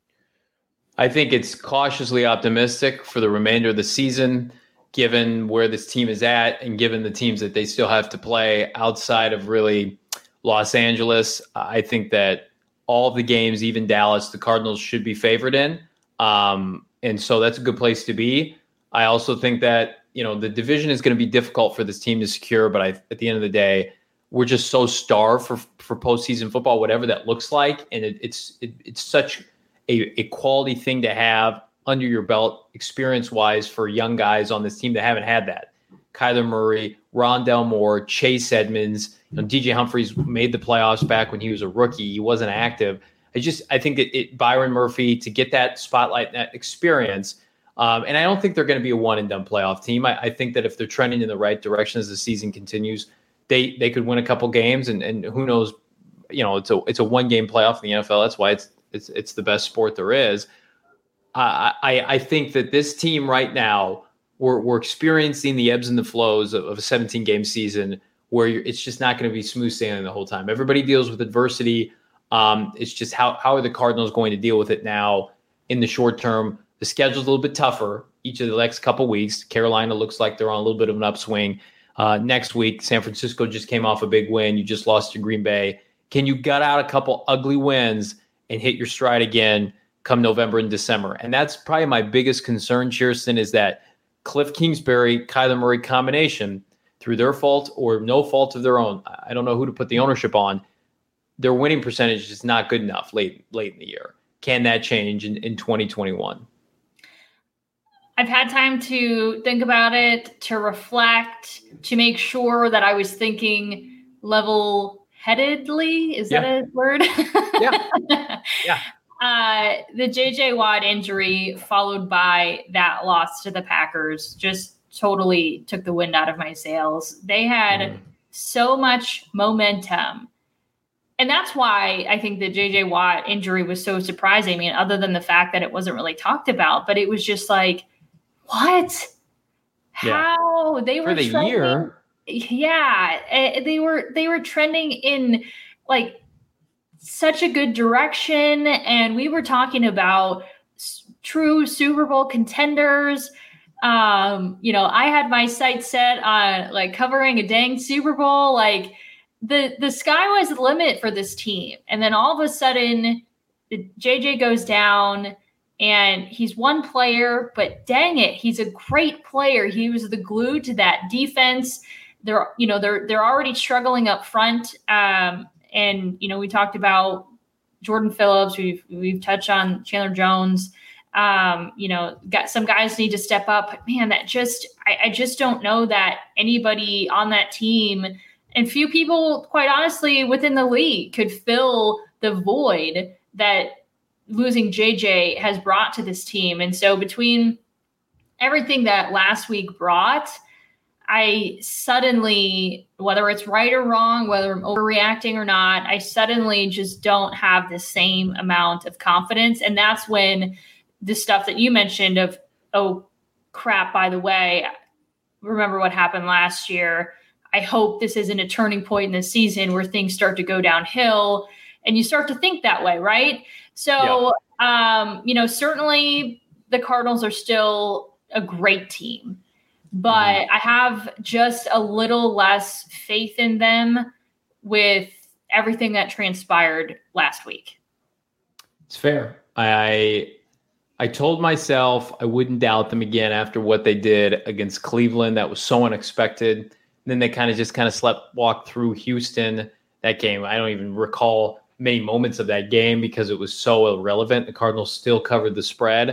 I think it's cautiously optimistic for the remainder of the season, given where this team is at and given the teams that they still have to play outside of really Los Angeles. I think that all of the games, even Dallas, the Cardinals should be favored in. Um, And so that's a good place to be. I also think that, you know, the division is going to be difficult for this team to secure. But I, at the end of the day, we're just so starved for, for postseason football, whatever that looks like. And it, it's it, it's such a, a quality thing to have under your belt experience-wise for young guys on this team that haven't had that. Kyler Murray, Rondale Moore, Chase Edmonds, you know, D J Humphries made the playoffs back when he was a rookie. He wasn't active. I just, I think it, it Byron Murphy to get that spotlight, that experience. Um, and I don't think they're going to be a one and done playoff team. I, I think that if they're trending in the right direction as the season continues, they, they could win a couple games, and, and who knows, you know, it's a, it's a one game playoff in the N F L. That's why it's, it's, it's the best sport there is. Uh, I, I think that this team right now, we're, we're experiencing the ebbs and the flows of, of a seventeen game season where you're, it's just not going to be smooth sailing the whole time. Everybody deals with adversity. Um, it's just how, how are the Cardinals going to deal with it now? in the short term. The schedule's a little bit tougher each of the next couple weeks. Carolina looks like they're on a little bit of an upswing. Uh, next week, San Francisco just came off a big win. You just lost to Green Bay. Can you gut out a couple ugly wins and hit your stride again come November and December? And that's probably my biggest concern, Chierstin, is that Cliff Kingsbury, Kyler Murray combination, through their fault or no fault of their own, I don't know who to put the ownership on, their winning percentage is not good enough late late in the year. Can that change in, in twenty twenty-one? I've had time to think about it, to reflect, to make sure that I was thinking level-headedly. Is yeah. that a word? Yeah. Yeah. Uh, the J J Watt injury followed by that loss to the Packers just totally took the wind out of my sails. They had mm. so much momentum. And that's why I think the J J Watt injury was so surprising. I mean, other than the fact that it wasn't really talked about, but it was just like, what? How? Yeah. They were for the trending, year. Yeah. They were, they were trending in like such a good direction. And we were talking about s- true Super Bowl contenders. Um, you know, I had my sights set on like covering a dang Super Bowl. Like the, the sky was the limit for this team. And then all of a sudden the J J goes down and he's one player, but dang it, he's a great player. He was the glue to that defense. They're, you know, they're, they're already struggling up front. Um, and, you know, we talked about Jordan Phillips. We've, we've touched on Chandler Jones. Um, you know, got some guys need to step up. But man, that just, I, I just don't know that anybody on that team and few people, quite honestly, within the league could fill the void that losing J J has brought to this team. And so between everything that last week brought, I suddenly, whether it's right or wrong, whether I'm overreacting or not, I suddenly just don't have the same amount of confidence. And that's when the stuff that you mentioned of, oh, crap, by the way, remember what happened last year. I hope this isn't a turning point in the season where things start to go downhill. And you start to think that way, right? So, yeah. um, you know, certainly the Cardinals are still a great team, but mm-hmm. I have just a little less faith in them with everything that transpired last week. It's fair. I I told myself I wouldn't doubt them again after what they did against Cleveland. That was so unexpected. And then they kind of just kind of slept walk through Houston. That game, I don't even recall many moments of that game because it was so irrelevant. The Cardinals still covered the spread.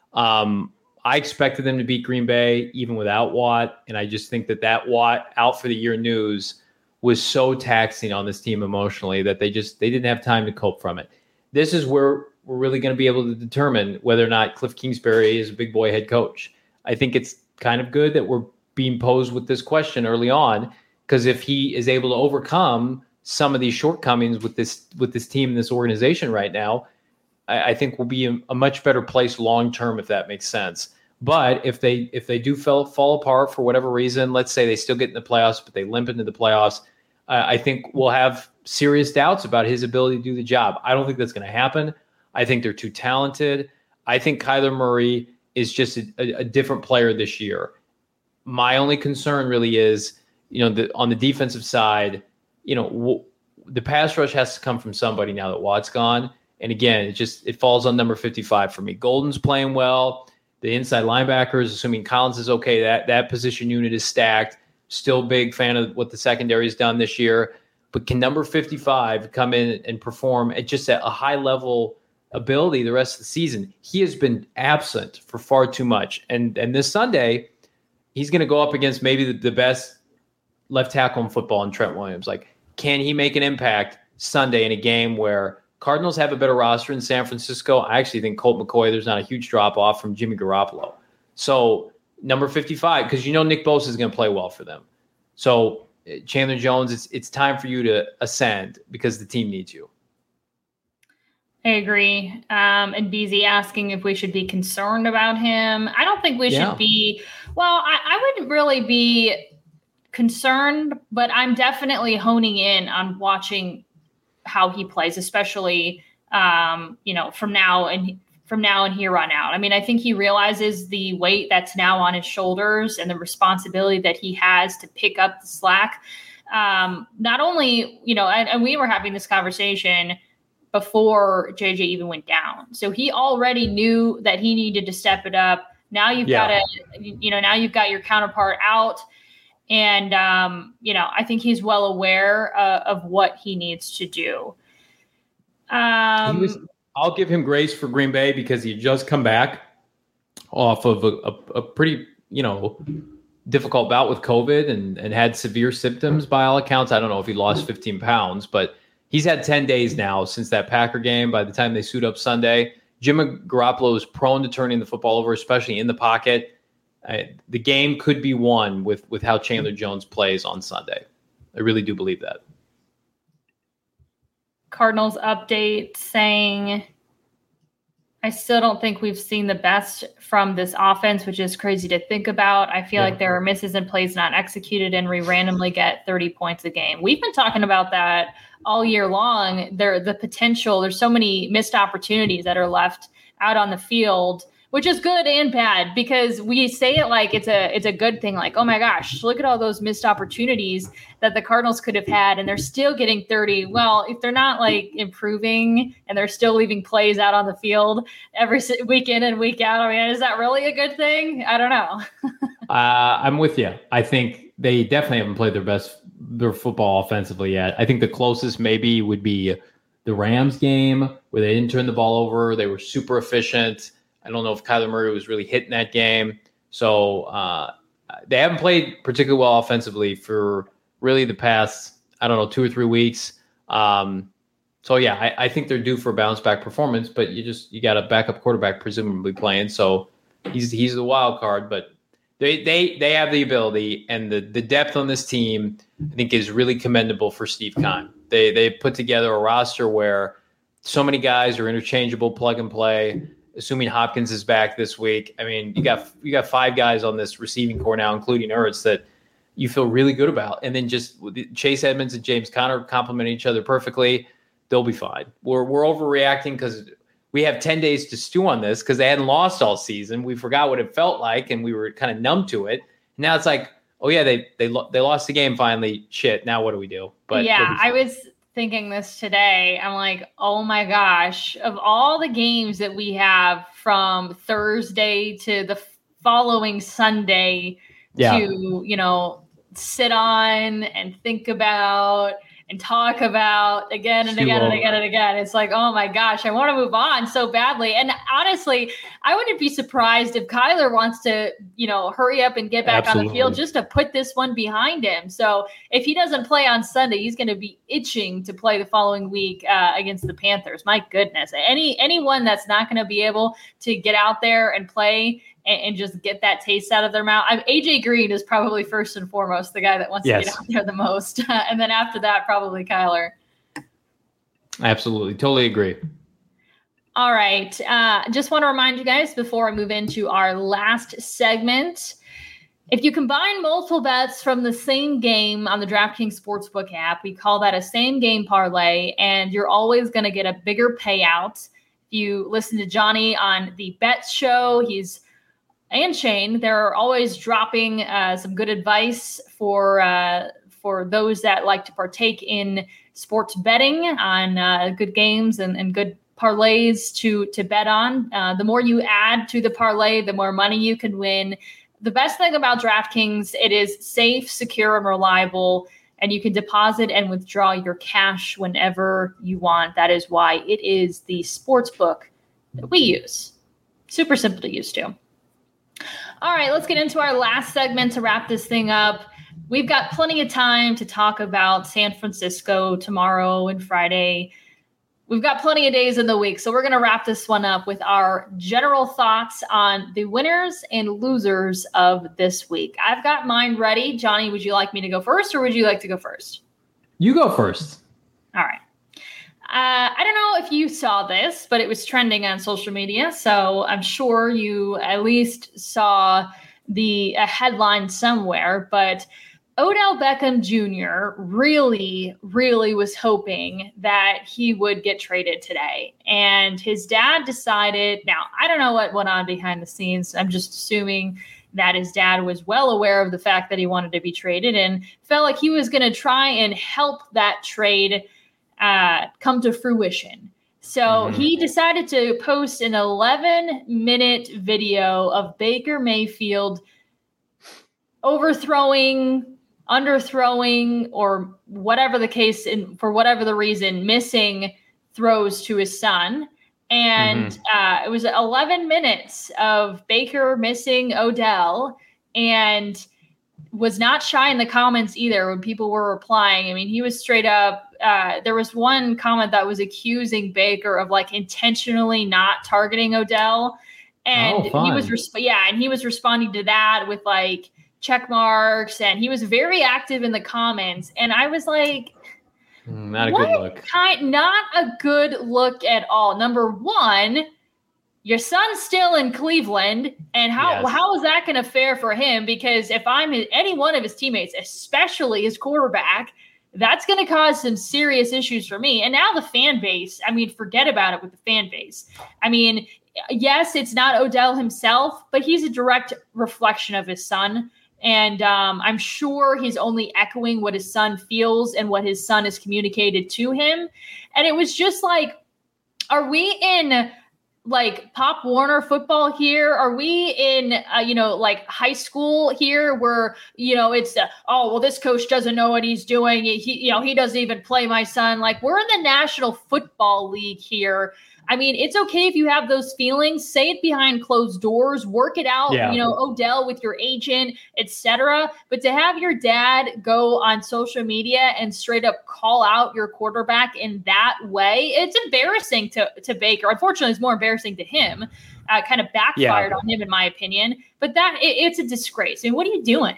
Um, I expected them to beat Green Bay even without Watt, and I just think that that Watt out for the year news was so taxing on this team emotionally that they just they didn't have time to cope from it. This is where we're really going to be able to determine whether or not Cliff Kingsbury is a big boy head coach. I think it's kind of good that we're being posed with this question early on, because if he is able to overcome some of these shortcomings with this with this team and this organization right now, I, I think we'll be in a much better place long term, if that makes sense. But if they if they do fall fall apart for whatever reason, let's say they still get in the playoffs, but they limp into the playoffs, uh, I think we'll have serious doubts about his ability to do the job. I don't think that's going to happen. I think they're too talented. I think Kyler Murray is just a, a, a different player this year. My only concern really is, you know, the, on the defensive side, you know, w- the pass rush has to come from somebody now that Watt's gone. And again, it just it falls on number fifty-five for me. Golden's playing well. The inside linebackers, assuming Collins is okay, that that position unit is stacked. Still big fan of what the secondary has done this year. But can number fifty-five come in and perform at just at a high level ability the rest of the season? He has been absent for far too much. And and this Sunday, he's going to go up against maybe the, the best left tackle in football in Trent Williams. Like, can he make an impact Sunday in a game where Cardinals have a better roster in San Francisco? I actually think Colt McCoy, there's not a huge drop-off from Jimmy Garoppolo. So number fifty-five, because you know Nick Bosa is going to play well for them. So Chandler Jones, it's it's time for you to ascend because the team needs you. I agree. Um, and B Z asking if we should be concerned about him. I don't think we yeah. should be. Well, I, I wouldn't really be concerned, but I'm definitely honing in on watching how he plays, especially, um, you know, from now and from now and here on out. I mean, I think he realizes the weight that's now on his shoulders and the responsibility that he has to pick up the slack. Um, not only, you know, and, and we were having this conversation before J J even went down. So he already knew that he needed to step it up. Now you've yeah. got to, you know, now you've got your counterpart out. And, um, you know, I think he's well aware uh, of what he needs to do. Um, he was, I'll give him grace for Green Bay because he just come back off of a, a, a pretty, you know, difficult bout with COVID and, and had severe symptoms by all accounts. I don't know if he lost fifteen pounds, but he's had ten days now since that Packer game. By the time they suit up Sunday, Jimmy Garoppolo is prone to turning the football over, especially in the pocket. Uh, the game could be won with, with how Chandler Jones plays on Sunday. I really do believe that. Cardinals update saying, I still don't think we've seen the best from this offense, which is crazy to think about. I feel yeah. like there are misses and plays not executed, and we randomly get thirty points a game. We've been talking about that all year long. There, the potential, there's so many missed opportunities that are left out on the field, which is good and bad because we say it like it's a it's a good thing. Like, oh my gosh, look at all those missed opportunities that the Cardinals could have had, and they're still getting thirty. Well, if they're not like improving and they're still leaving plays out on the field every week in and week out, I mean, is that really a good thing? I don't know. uh, I'm with you. I think they definitely haven't played their best their football offensively yet. I think the closest maybe would be the Rams game where they didn't turn the ball over. They were super efficient. I don't know if Kyler Murray was really hitting that game. So uh, they haven't played particularly well offensively for really the past, I don't know, two or three weeks. Um, so, yeah, I, I think they're due for a bounce back performance, but you just you got a backup quarterback presumably playing. So he's he's the wild card, but they they they have the ability, and the, the depth on this team, I think, is really commendable for Steve Keim. They, they put together a roster where so many guys are interchangeable, plug and play. Assuming Hopkins is back this week, I mean, you got you got five guys on this receiving core now, including Ertz, that you feel really good about. And then just Chase Edmonds and James Conner complement each other perfectly. They'll be fine. We're we're overreacting because we have ten days to stew on this because they hadn't lost all season. We forgot what it felt like, and we were kind of numb to it. Now it's like, oh yeah, they they they lost the game finally. Shit, now what do we do? But yeah, I was thinking this today. I'm like, oh my gosh, of all the games that we have from Thursday to the following Sunday yeah. to, you know, sit on and think about and talk about again and again and again and again. It's like, oh my gosh, I want to move on so badly. And honestly, I wouldn't be surprised if Kyler wants to, you know, hurry up and get back Absolutely. on the field just to put this one behind him. So if he doesn't play on Sunday, he's going to be itching to play the following week uh, against the Panthers. My goodness, any anyone that's not going to be able to get out there and play and, and just get that taste out of their mouth. I'm, A J Green is probably first and foremost the guy that wants yes. to get out there the most. And then after that, probably Kyler. Absolutely. Totally agree. All right. Uh, just want to remind you guys before I move into our last segment, if you combine multiple bets from the same game on the DraftKings Sportsbook app, we call that a same game parlay, and you're always going to get a bigger payout. If you listen to Johnny on the Bets Show, he's and Shane, they're always dropping uh, some good advice for uh, for those that like to partake in sports betting on uh, good games and, and good parlays to to bet on. Uh, the more you add to the parlay, the more money you can win. The best thing about DraftKings, it is safe, secure, and reliable, and you can deposit and withdraw your cash whenever you want. That is why it is the sports book that we use. Super simple to use too. All right, let's get into our last segment to wrap this thing up. We've got plenty of time to talk about San Francisco tomorrow and Friday. We've got plenty of days in the week, so we're going to wrap this one up with our general thoughts on the winners and losers of this week. I've got mine ready. Johnny, would you like me to go first, or would you like to go first? You go first. All right. Uh, I don't know if you saw this, but it was trending on social media, so I'm sure you at least saw the a headline somewhere. But Odell Beckham Junior really, really was hoping that he would get traded today. And his dad decided, now, I don't know what went on behind the scenes. I'm just assuming that his dad was well aware of the fact that he wanted to be traded and felt like he was going to try and help that trade uh, come to fruition. So mm-hmm. he decided to post an eleven minute video of Baker Mayfield overthrowing, underthrowing, or whatever the case, in, for whatever the reason, missing throws to his son. And mm-hmm. uh, it was eleven minutes of Baker missing Odell, and was not shy in the comments either when people were replying. I mean, he was straight up. Uh, there was one comment that was accusing Baker of like intentionally not targeting Odell. And oh, he was, resp- yeah, and he was responding to that with like check marks, and he was very active in the comments. And I was like, not a what good look. Kind, not a good look at all. Number one, your son's still in Cleveland, and how yes. how is that going to fare for him? Because if I'm any one of his teammates, especially his quarterback, that's going to cause some serious issues for me. And now the fan base, I mean, forget about it with the fan base. I mean, yes, it's not Odell himself, but he's a direct reflection of his son. And um, I'm sure he's only echoing what his son feels and what his son has communicated to him. And it was just like, are we in like Pop Warner football here? Are we in, uh, you know, like high school here where, you know, it's, uh, oh, well, this coach doesn't know what he's doing. He, you know, he doesn't even play my son. Like, we're in the National Football League here. I mean, it's okay if you have those feelings, say it behind closed doors, work it out, yeah. you know, Odell with your agent, et cetera. But to have your dad go on social media and straight up call out your quarterback in that way, it's embarrassing to, to Baker. Unfortunately, it's more embarrassing to him. Uh, kind of backfired yeah. on him, in my opinion. But that it, it's a disgrace. I mean, what are you doing?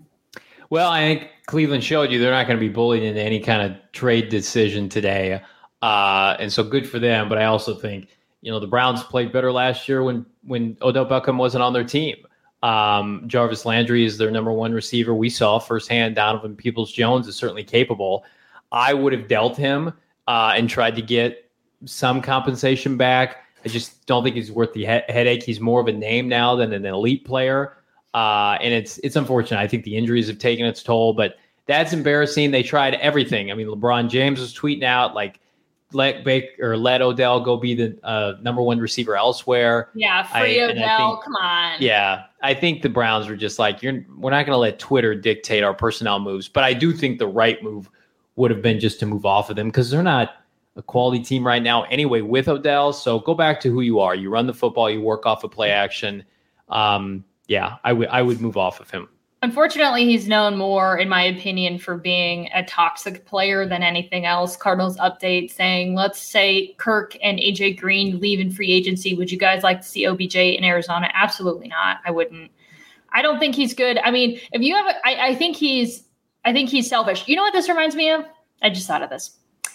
Well, I think Cleveland showed you they're not going to be bullied into any kind of trade decision today. Uh, and so good for them. But I also think, you know, the Browns played better last year when, when Odell Beckham wasn't on their team. Um, Jarvis Landry is their number one receiver. We saw firsthand Donovan Peoples-Jones is certainly capable. I would have dealt him uh, and tried to get some compensation back. I just don't think he's worth the he- headache. He's more of a name now than an elite player. Uh, and it's, it's unfortunate. I think the injuries have taken its toll, but that's embarrassing. They tried everything. I mean, LeBron James was tweeting out like, let Baker or let Odell go be the uh, number one receiver elsewhere. Yeah, free I, Odell. Think, come on. Yeah, I think the Browns were just like, "You're we're not going to let Twitter dictate our personnel moves." But I do think the right move would have been just to move off of them because they're not a quality team right now anyway with Odell. So go back to who you are. You run the football. You work off of play action. Um, yeah, I would I would move off of him. Unfortunately, he's known more, in my opinion, for being a toxic player than anything else. Cardinals update saying, let's say Kirk and A J Green leave in free agency. Would you guys like to see O B J in Arizona? Absolutely not. I wouldn't. I don't think he's good. I mean, if you have, a, I, I think he's, I think he's selfish. You know what this reminds me of? I just thought of this.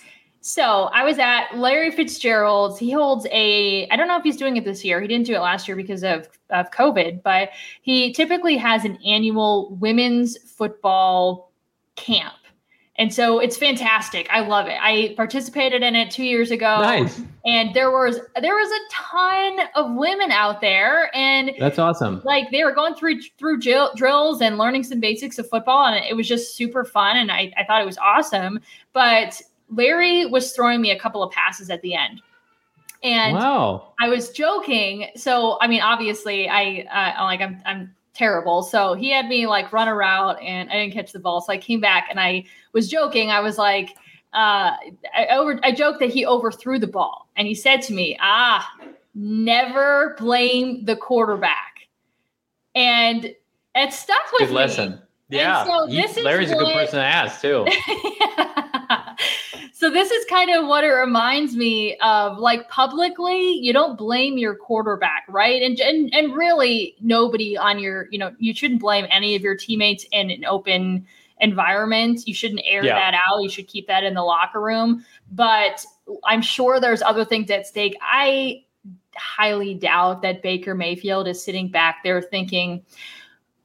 So I was at Larry Fitzgerald's. He holds a, I don't know if he's doing it this year. He didn't do it last year because of, of COVID, but he typically has an annual women's football camp. And so it's fantastic. I love it. I participated in it two years ago. Nice. And there was, there was a ton of women out there, and that's awesome. Like they were going through, through drill, drills and learning some basics of football. And it was just super fun. And I, I thought it was awesome, but Larry was throwing me a couple of passes at the end. And wow. I was joking. So, I mean, obviously I, uh, like, I'm, I'm terrible. So he had me like run a route and I didn't catch the ball. So I came back and I was joking. I was like, uh, I over, I joked that he overthrew the ball, and he said to me, ah, never blame the quarterback. And it stuck with good me. lesson. Yeah. So he, Larry's what, a good person to ask too. Yeah. So this is kind of what it reminds me of. Like, publicly, you don't blame your quarterback, right? And and and really nobody on your, you know, you shouldn't blame any of your teammates in an open environment. You shouldn't air yeah. that out. You should keep that in the locker room. But I'm sure there's other things at stake. I highly doubt that Baker Mayfield is sitting back there thinking,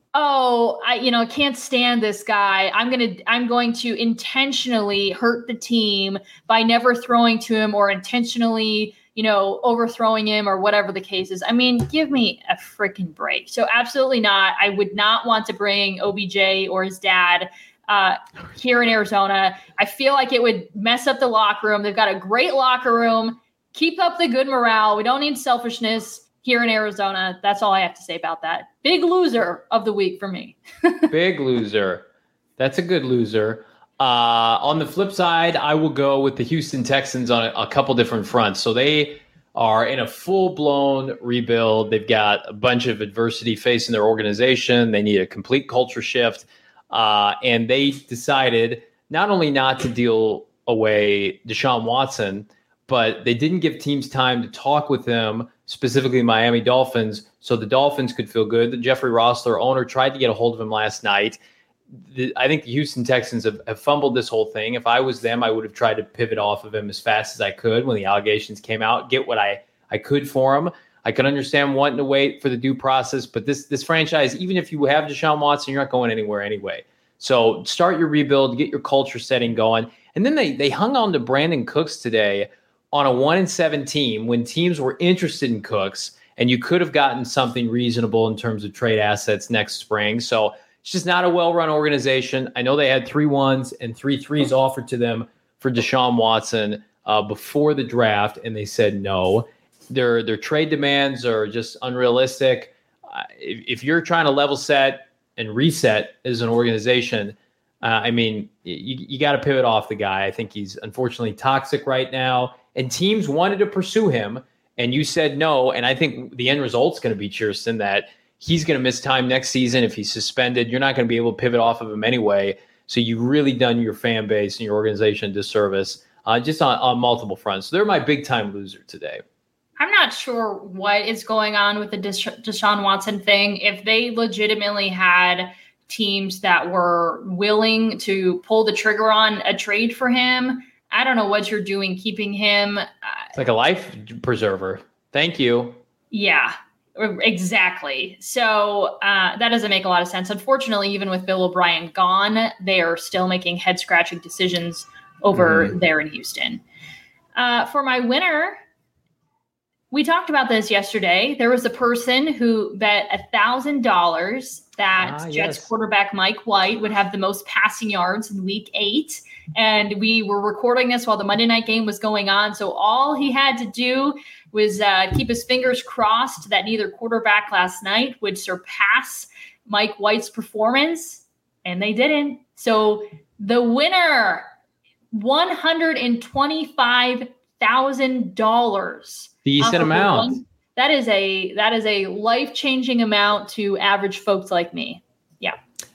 Oh, I you know can't stand this guy. I'm gonna I'm going to intentionally hurt the team by never throwing to him or intentionally you know overthrowing him or whatever the case is. I mean, give me a freaking break. So absolutely not. I would not want to bring O B J or his dad uh, here in Arizona. I feel like it would mess up the locker room. They've got a great locker room. Keep up the good morale. We don't need selfishness here in Arizona. That's all I have to say about that. Big loser of the week for me. Big loser. That's a good loser. Uh, on the flip side, I will go with the Houston Texans on a, a couple different fronts. So they are in a full-blown rebuild. They've got a bunch of adversity facing their organization. They need a complete culture shift. Uh, and they decided not only not to deal away Deshaun Watson, but they didn't give teams time to talk with him, specifically Miami Dolphins, so the Dolphins could feel good. The Jeffrey Rossler owner tried to get a hold of him last night. The, I think the Houston Texans have, have fumbled this whole thing. If I was them, I would have tried to pivot off of him as fast as I could when the allegations came out, get what I, I could for him. I could understand wanting to wait for the due process, but this this franchise, even if you have Deshaun Watson, you're not going anywhere anyway. So start your rebuild, get your culture setting going. And then they they hung on to Brandon Cooks today on a one and seven team when teams were interested in Cooks, and you could have gotten something reasonable in terms of trade assets next spring. So it's just not a well-run organization. I know they had three ones and three threes offered to them for Deshaun Watson uh, before the draft, and they said no. Their their trade demands are just unrealistic. Uh, if, if you're trying to level set and reset as an organization, uh, I mean, you, you got to pivot off the guy. I think he's unfortunately toxic right now. And teams wanted to pursue him, and you said no. And I think the end result's going to be, Chierstin, that he's going to miss time next season if he's suspended. You're not going to be able to pivot off of him anyway. So you've really done your fan base and your organization a disservice uh, just on, on multiple fronts. So they're my big-time loser today. I'm not sure what is going on with the Desha- Deshaun Watson thing. If they legitimately had teams that were willing to pull the trigger on a trade for him, I don't know what you're doing keeping him. It's like a life preserver. Thank you. Yeah, exactly. So uh, that doesn't make a lot of sense. Unfortunately, even with Bill O'Brien gone, they are still making head-scratching decisions over mm. there in Houston. Uh, for my winner, we talked about this yesterday. There was a person who bet one thousand dollars that ah, Jets yes. quarterback Mike White would have the most passing yards in week eight. And we were recording this while the Monday night game was going on. So all he had to do was uh, keep his fingers crossed that neither quarterback last night would surpass Mike White's performance. And they didn't. So the winner, one hundred twenty-five thousand dollars. Decent amount. One. That is a that is a life-changing amount to average folks like me. Yeah.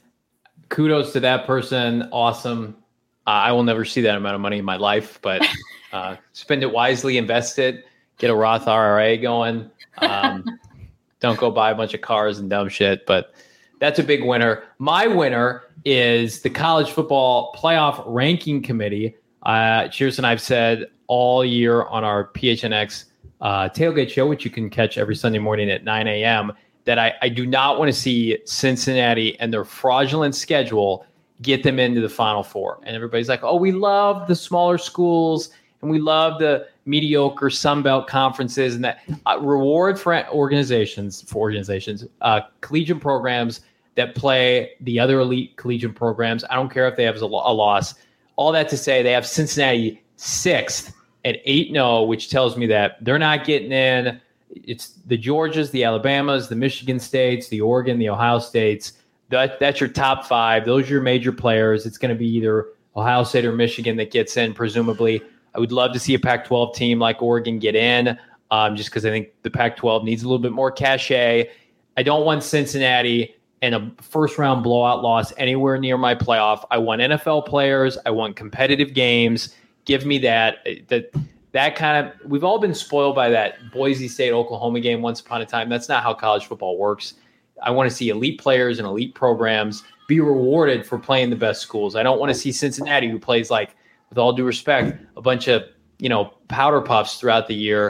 Kudos to that person. Awesome. Uh, I will never see that amount of money in my life, but uh, spend it wisely, invest it, get a Roth I R A going. Um, don't go buy a bunch of cars and dumb shit, but that's a big winner. My winner is the College Football Playoff Ranking Committee. Uh, Cheers, and I've said all year on our P H N X uh, tailgate show, which you can catch every Sunday morning at nine a.m., that I, I do not want to see Cincinnati and their fraudulent schedule get them into the Final Four. And everybody's like, oh, we love the smaller schools and we love the mediocre Sun Belt conferences, and that uh, reward for organizations, for organizations, uh, collegiate programs that play the other elite collegiate programs. I don't care if they have a, a loss. All that to say, they have Cincinnati sixth at eight and oh, which tells me that they're not getting in. It's the Georgias, the Alabamas, the Michigan States, the Oregon, the Ohio States. That that's your top five. Those are your major players. It's going to be either Ohio State or Michigan that gets in, presumably. I would love to see a Pac twelve team like Oregon get in, um, just because I think the Pac twelve needs a little bit more cachet. I don't want Cincinnati and a first-round blowout loss anywhere near my playoff. I want N F L players. I want competitive games. Give me that. That that kind of – we've all been spoiled by that Boise State-Oklahoma game once upon a time. That's not how college football works. I want to see elite players and elite programs be rewarded for playing the best schools. I don't want to see Cincinnati, who plays, like, with all due respect, a bunch of, you know, powder puffs throughout the year.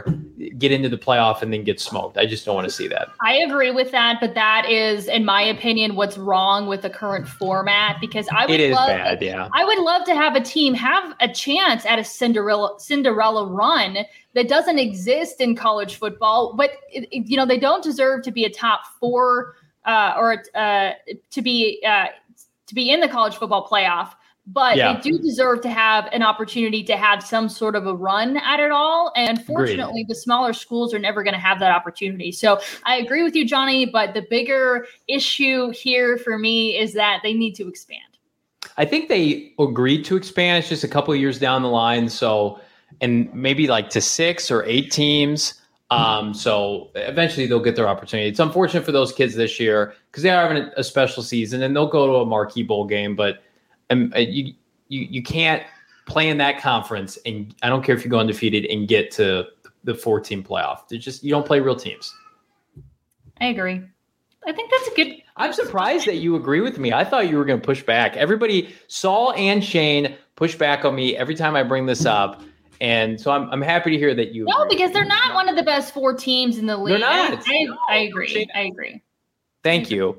get into the playoff and then get smoked. I just don't want to see that. I agree with that, but that is, in my opinion, what's wrong with the current format, because I would it is love, bad, yeah. I would love to have a team have a chance at a Cinderella Cinderella run that doesn't exist in college football, but it, it, you know, they don't deserve to be a top four uh, or uh, to be uh, to be in the college football playoff. But yeah. they do deserve to have an opportunity to have some sort of a run at it all. And unfortunately, Agreed. the smaller schools are never going to have that opportunity. So I agree with you, Johnny, but the bigger issue here for me is that they need to expand. I think they agreed to expand. It's just a couple of years down the line. So, and maybe like to six or eight teams. Um, so eventually they'll get their opportunity. It's unfortunate for those kids this year because they are having a special season and they'll go to a marquee bowl game, but And you, you you can't play in that conference, and I don't care if you go undefeated and get to the four-team playoff. They're just you don't play real teams. I agree. I think that's a good. I'm surprised that you agree with me. I thought you were going to push back. Everybody, Saul and Shane, push back on me every time I bring this up, and so I'm I'm happy to hear that you. No, agree. because they're not one of the best four teams in the league. They're not. I, no. I agree. Shane, I agree. Thank you.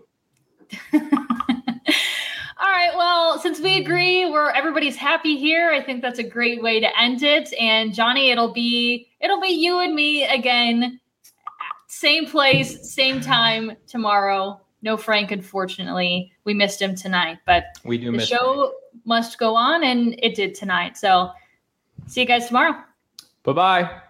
All right. Well, since we agree, we're everybody's happy here. I think that's a great way to end it. And Johnny, it'll be it'll be you and me again, same place, same time tomorrow. No Frank, unfortunately, we missed him tonight, but we do. The miss show Frank. must go on, and it did tonight. So, see you guys tomorrow. Bye bye.